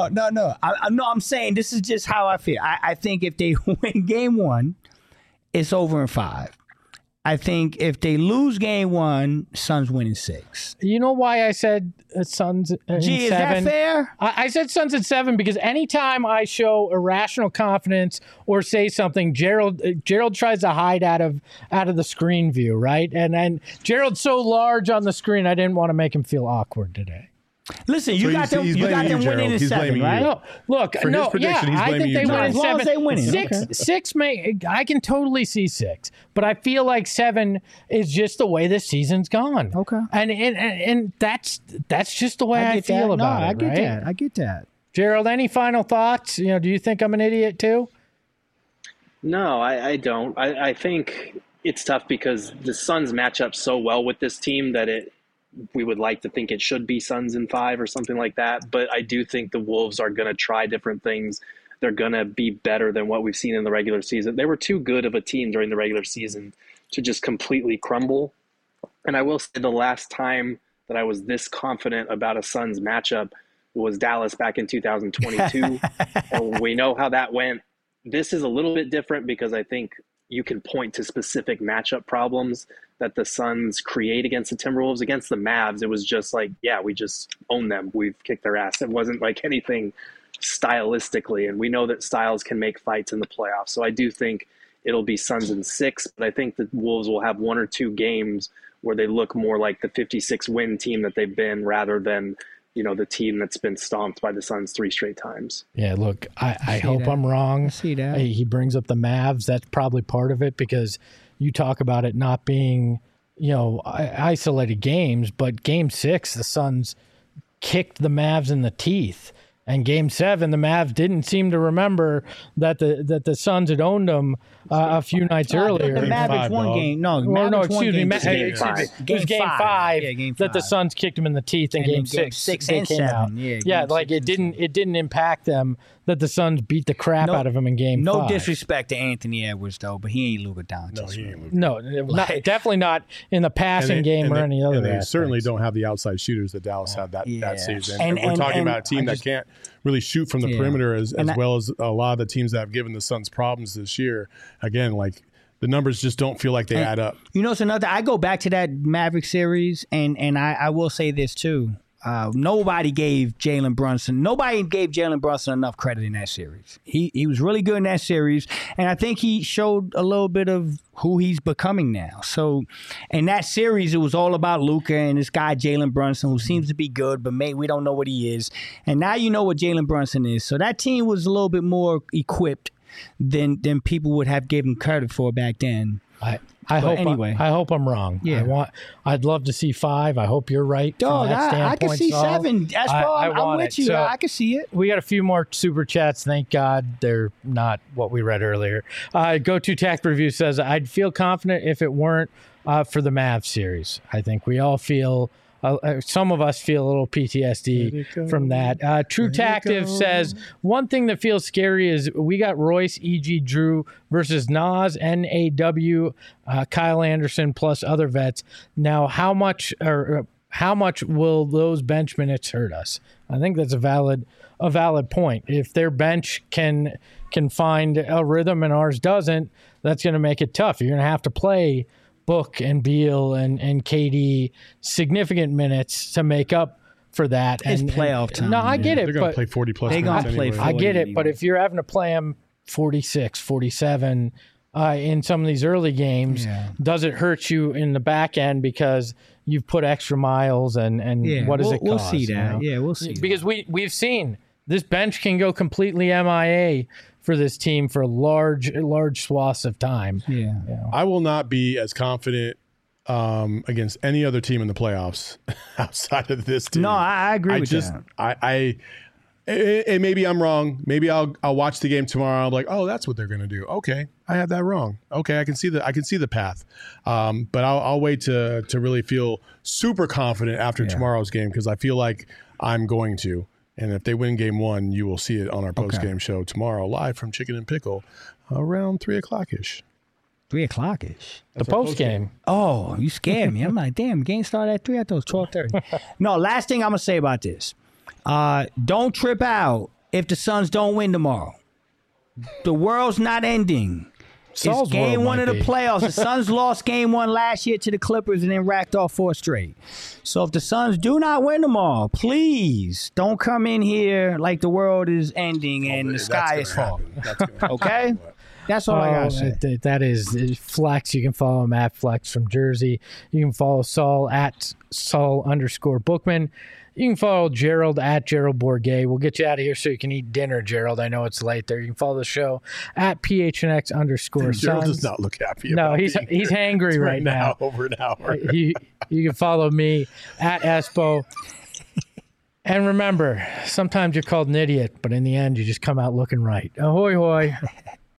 I'm saying this is just how I feel. I think if they win game 1, it's over in 5. I think if they lose game 1, Suns win in 6. You know why I said Suns in 7? Is that fair? I said Suns in 7 because anytime I show irrational confidence or say something, Gerald tries to hide out of the screen view, right? And Gerald's so large on the screen, I didn't want to make him feel awkward today. Listen, you got them winning in 7, right? No, look, For his prediction, he's I blaming think they you, win in As long 7. as they winning. 6 I can totally see 6, but I feel like 7 is just the way this season's gone. Okay. And that's just the way I feel about it. I get that. Gerald, any final thoughts? Do you think I'm an idiot too? No, I don't. I think it's tough because the Suns match up so well with this team that we would like to think it should be Suns in 5 or something like that. But I do think the Wolves are going to try different things. They're going to be better than what we've seen in the regular season. They were too good of a team during the regular season to just completely crumble. And I will say the last time that I was this confident about a Suns matchup was Dallas back in 2022. And we know how that went. This is a little bit different because I think you can point to specific matchup problems that the Suns create against the Timberwolves. Against the Mavs, it was just like, yeah, we just own them. We've kicked their ass. It wasn't like anything stylistically, and we know that styles can make fights in the playoffs. So I do think it'll be Suns in 6, but I think the Wolves will have 1 or 2 games where they look more like the 56-win team that they've been rather than the team that's been stomped by the Suns 3 straight times. Yeah, look, I hope I'm wrong. I see that. He brings up the Mavs. That's probably part of it because you talk about it not being, isolated games, but game 6, the Suns kicked the Mavs in the teeth. And game 7, the Mavs didn't seem to remember that the Suns had owned them a few nights earlier. The Mavericks won game. No, excuse me. It was game 5 that the five. Suns kicked them in the teeth in game 6. 6 they and came 7. out. Yeah, like it didn't impact them that the Suns beat the crap out of them in game 5. No disrespect to Anthony Edwards though, but he ain't Luka Doncic. No, definitely not in the passing game or any other. And they aspects. certainly don't have the outside shooters that Dallas had that season. And we're talking about a team that can't really shoot from the perimeter as well as a lot of the teams that have given the Suns problems this year. Again, like the numbers just don't feel like they add up. It's another. I go back to that Maverick series, and I will say this too. Nobody gave Jalen Brunson enough credit in that series. He was really good in that series, and I think he showed a little bit of who he's becoming now. So in that series, it was all about Luka and this guy Jalen Brunson, who seems to be good, but we don't know what he is. And now you know what Jalen Brunson is. So that team was a little bit more equipped than people would have given credit for back then. I hope I'm wrong. Yeah. I'd love to see 5. I hope you're right. Dog, I can see 7. That's I'm with you. So I can see it. We got a few more super chats. Thank God they're not what we read earlier. Go to Tact Review says, I'd feel confident if it weren't for the Mavs series. I think we all feel. Some of us feel a little PTSD from that. True Tactive says, one thing that feels scary is we got Royce, E.G. Drew versus Nas, N.A.W., Kyle Anderson, plus other vets. Now, how much will those bench minutes hurt us? I think that's a valid point. If their bench can find a rhythm and ours doesn't, that's going to make it tough. You're going to have to play Book and Beal and KD significant minutes to make up for that. It's playoff time. No, I get it. They're going to play 40-plus They're minutes going to play 40 I get it, but if you're having to play them 46, 47 in some of these early games, does it hurt you in the back end because you've put extra miles and what does it cost? We'll see that. Yeah, we'll see. Because we've seen this bench can go completely MIA for this team for large swaths of time. Yeah. I will not be as confident against any other team in the playoffs outside of this team. No, I agree with that. And maybe I'm wrong. Maybe I'll watch the game tomorrow. I'll be like, oh, that's what they're going to do. Okay, I had that wrong. Okay, I can see the path. But I'll wait to really feel super confident after tomorrow's game because I feel like I'm going to. And if they win game 1, you will see it on our post-game show tomorrow, live from Chicken and Pickle, around 3 o'clock-ish. 3 o'clock-ish. The post game. Oh, you scared me. I'm like, damn, game started at 3. I thought it was 12:30. No, last thing I'm going to say about this. Don't trip out if the Suns don't win tomorrow. The world's not ending. It's game 1 of the playoffs. The Suns lost game 1 last year to the Clippers and then racked off 4 straight. So if the Suns do not win tomorrow, please don't come in here like the world is ending and the sky is falling. Okay? That's all I got to say. That is Flex. You can follow him at Flex from Jersey. You can follow Saul at Saul_Bookman. You can follow Gerald at Gerald Bourget. We'll get you out of here so you can eat dinner, Gerald. I know it's late there. You can follow the show at PHNX_Suns. Gerald does not look happy. No, he's hangry right now. Over an hour. You can follow me at Espo. And remember, sometimes you're called an idiot, but in the end, you just come out looking right. Ahoy, hoy.